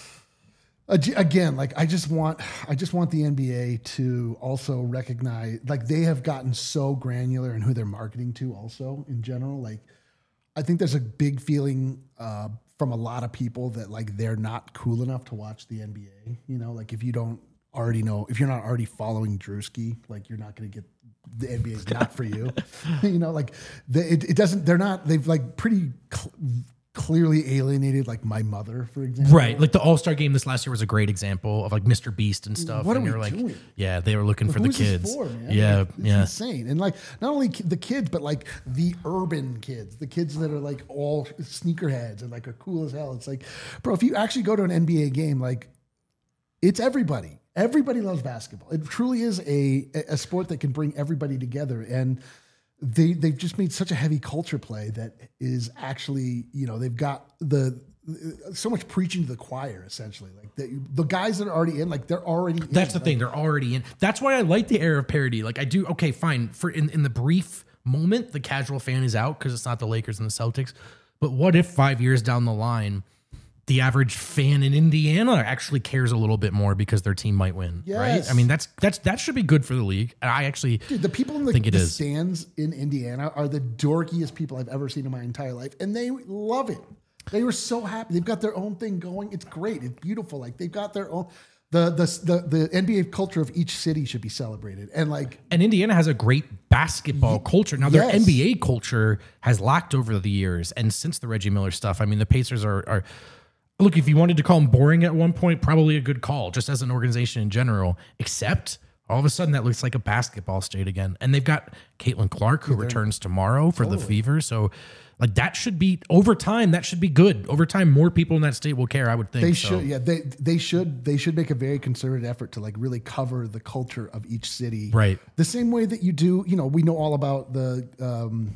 [SPEAKER 1] again, like I just want, I just want the N B A to also recognize, like they have gotten so granular in who they're marketing to also in general. Like I think there's a big feeling uh, from a lot of people that like, they're not cool enough to watch the N B A, you know, like if you don't already know, if you're not already following Drewski, like you're not going to get, the N B A is not for you, you know, like the, it, it doesn't, they're not, they've like pretty cl- clearly alienated like my mother, for example.
[SPEAKER 2] Right. Like the All-Star game this last year was a great example of like Mister Beast and stuff.
[SPEAKER 1] What
[SPEAKER 2] and
[SPEAKER 1] are we
[SPEAKER 2] like,
[SPEAKER 1] doing?
[SPEAKER 2] Yeah, they were looking
[SPEAKER 1] like,
[SPEAKER 2] for the kids.
[SPEAKER 1] For, man?
[SPEAKER 2] Yeah.
[SPEAKER 1] Like, it's
[SPEAKER 2] yeah.
[SPEAKER 1] insane. And like not only the kids, but like the urban kids, the kids that are like all sneakerheads and like are cool as hell. It's like, bro, if you actually go to an N B A game, like it's everybody. Everybody loves basketball. It truly is a a sport that can bring everybody together. And They they've just made such a heavy culture play that is actually, you know, they've got the so much preaching to the choir essentially. Like the, the guys that are already in, like they're already.
[SPEAKER 2] That's
[SPEAKER 1] in,
[SPEAKER 2] the thing; they're already in. That's why I like the era of parody. Like I do. Okay, fine. For in, in the brief moment, the casual fan is out because it's not the Lakers and the Celtics. But what if five years down the line, the average fan in Indiana actually cares a little bit more because their team might win,
[SPEAKER 1] yes.
[SPEAKER 2] right? I mean, that's that's that should be good for the league. And I actually
[SPEAKER 1] Dude, the people in the,
[SPEAKER 2] think it
[SPEAKER 1] the
[SPEAKER 2] is.
[SPEAKER 1] stands in Indiana are the dorkiest people I've ever seen in my entire life, and they love it. They were so happy. They've got their own thing going. It's great. It's beautiful. Like they've got their own. The the the the N B A culture of each city should be celebrated, and like
[SPEAKER 2] and Indiana has a great basketball y- culture. Now their
[SPEAKER 1] yes.
[SPEAKER 2] N B A culture has lacked over the years, and since the Reggie Miller stuff, I mean, the Pacers are are. Look, if you wanted to call them boring at one point, probably a good call, just as an organization in general. Except all of a sudden that looks like a basketball state again. And they've got Caitlin Clark, who yeah, returns tomorrow for totally. the Fever. So like that should be over time, that should be good. Over time, more people in that state will care, I would think.
[SPEAKER 1] They
[SPEAKER 2] so.
[SPEAKER 1] should, yeah. They they should they should make a very concerted effort to like really cover the culture of each city.
[SPEAKER 2] Right.
[SPEAKER 1] The same way that you do, you know, we know all about the um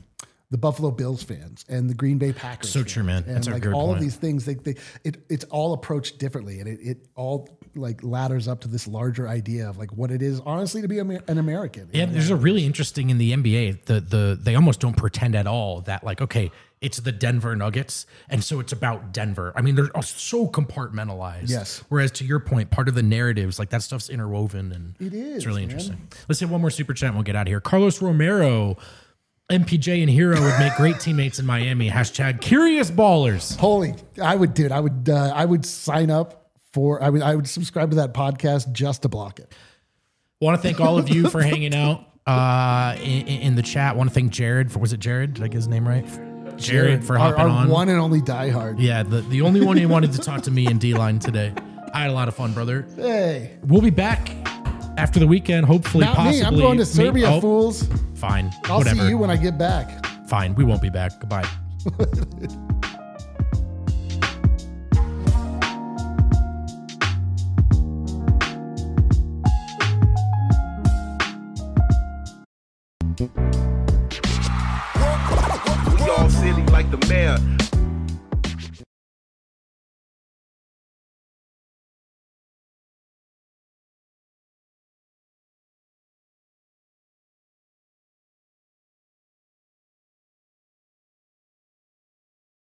[SPEAKER 1] the Buffalo Bills fans and the Green Bay Packers.
[SPEAKER 2] So
[SPEAKER 1] fans.
[SPEAKER 2] true, man.
[SPEAKER 1] And
[SPEAKER 2] That's a
[SPEAKER 1] like
[SPEAKER 2] good
[SPEAKER 1] all
[SPEAKER 2] point.
[SPEAKER 1] of these things, they, they it it's all approached differently, and it, it all like ladders up to this larger idea of like what it is honestly to be Amer- an American.
[SPEAKER 2] Yeah, there's a really interesting in the N B A. The the they almost don't pretend at all that like okay, it's the Denver Nuggets, and so it's about Denver. I mean, they're so compartmentalized.
[SPEAKER 1] Yes.
[SPEAKER 2] Whereas to your point, part of the narratives, like that stuff's interwoven, and
[SPEAKER 1] It is,
[SPEAKER 2] It's really
[SPEAKER 1] man.
[SPEAKER 2] interesting. Let's hit one more super chat and we'll get out of here. Carlos Romero, M P J and Hero would make great teammates in Miami. Hashtag curious ballers.
[SPEAKER 1] Holy, I would, dude. I would, uh, I would sign up for. I would, I would subscribe to that podcast just to block it.
[SPEAKER 2] Want to thank all of you for hanging out uh, in, in the chat. Want to thank Jared for was it Jared? Did I get his name right? Jared for
[SPEAKER 1] our,
[SPEAKER 2] hopping
[SPEAKER 1] our
[SPEAKER 2] on.
[SPEAKER 1] one and only diehard.
[SPEAKER 2] Yeah, the, the only one who wanted to talk to me in D-Line today. I had a lot of fun, brother.
[SPEAKER 1] Hey,
[SPEAKER 2] We'll be back after the weekend, hopefully,
[SPEAKER 1] not
[SPEAKER 2] possibly.
[SPEAKER 1] me. I'm going to
[SPEAKER 2] Maybe-
[SPEAKER 1] Serbia,
[SPEAKER 2] oh,
[SPEAKER 1] fools.
[SPEAKER 2] Fine.
[SPEAKER 1] I'll
[SPEAKER 2] Whatever.
[SPEAKER 1] see you when I get back.
[SPEAKER 2] Fine. We won't be back. Goodbye.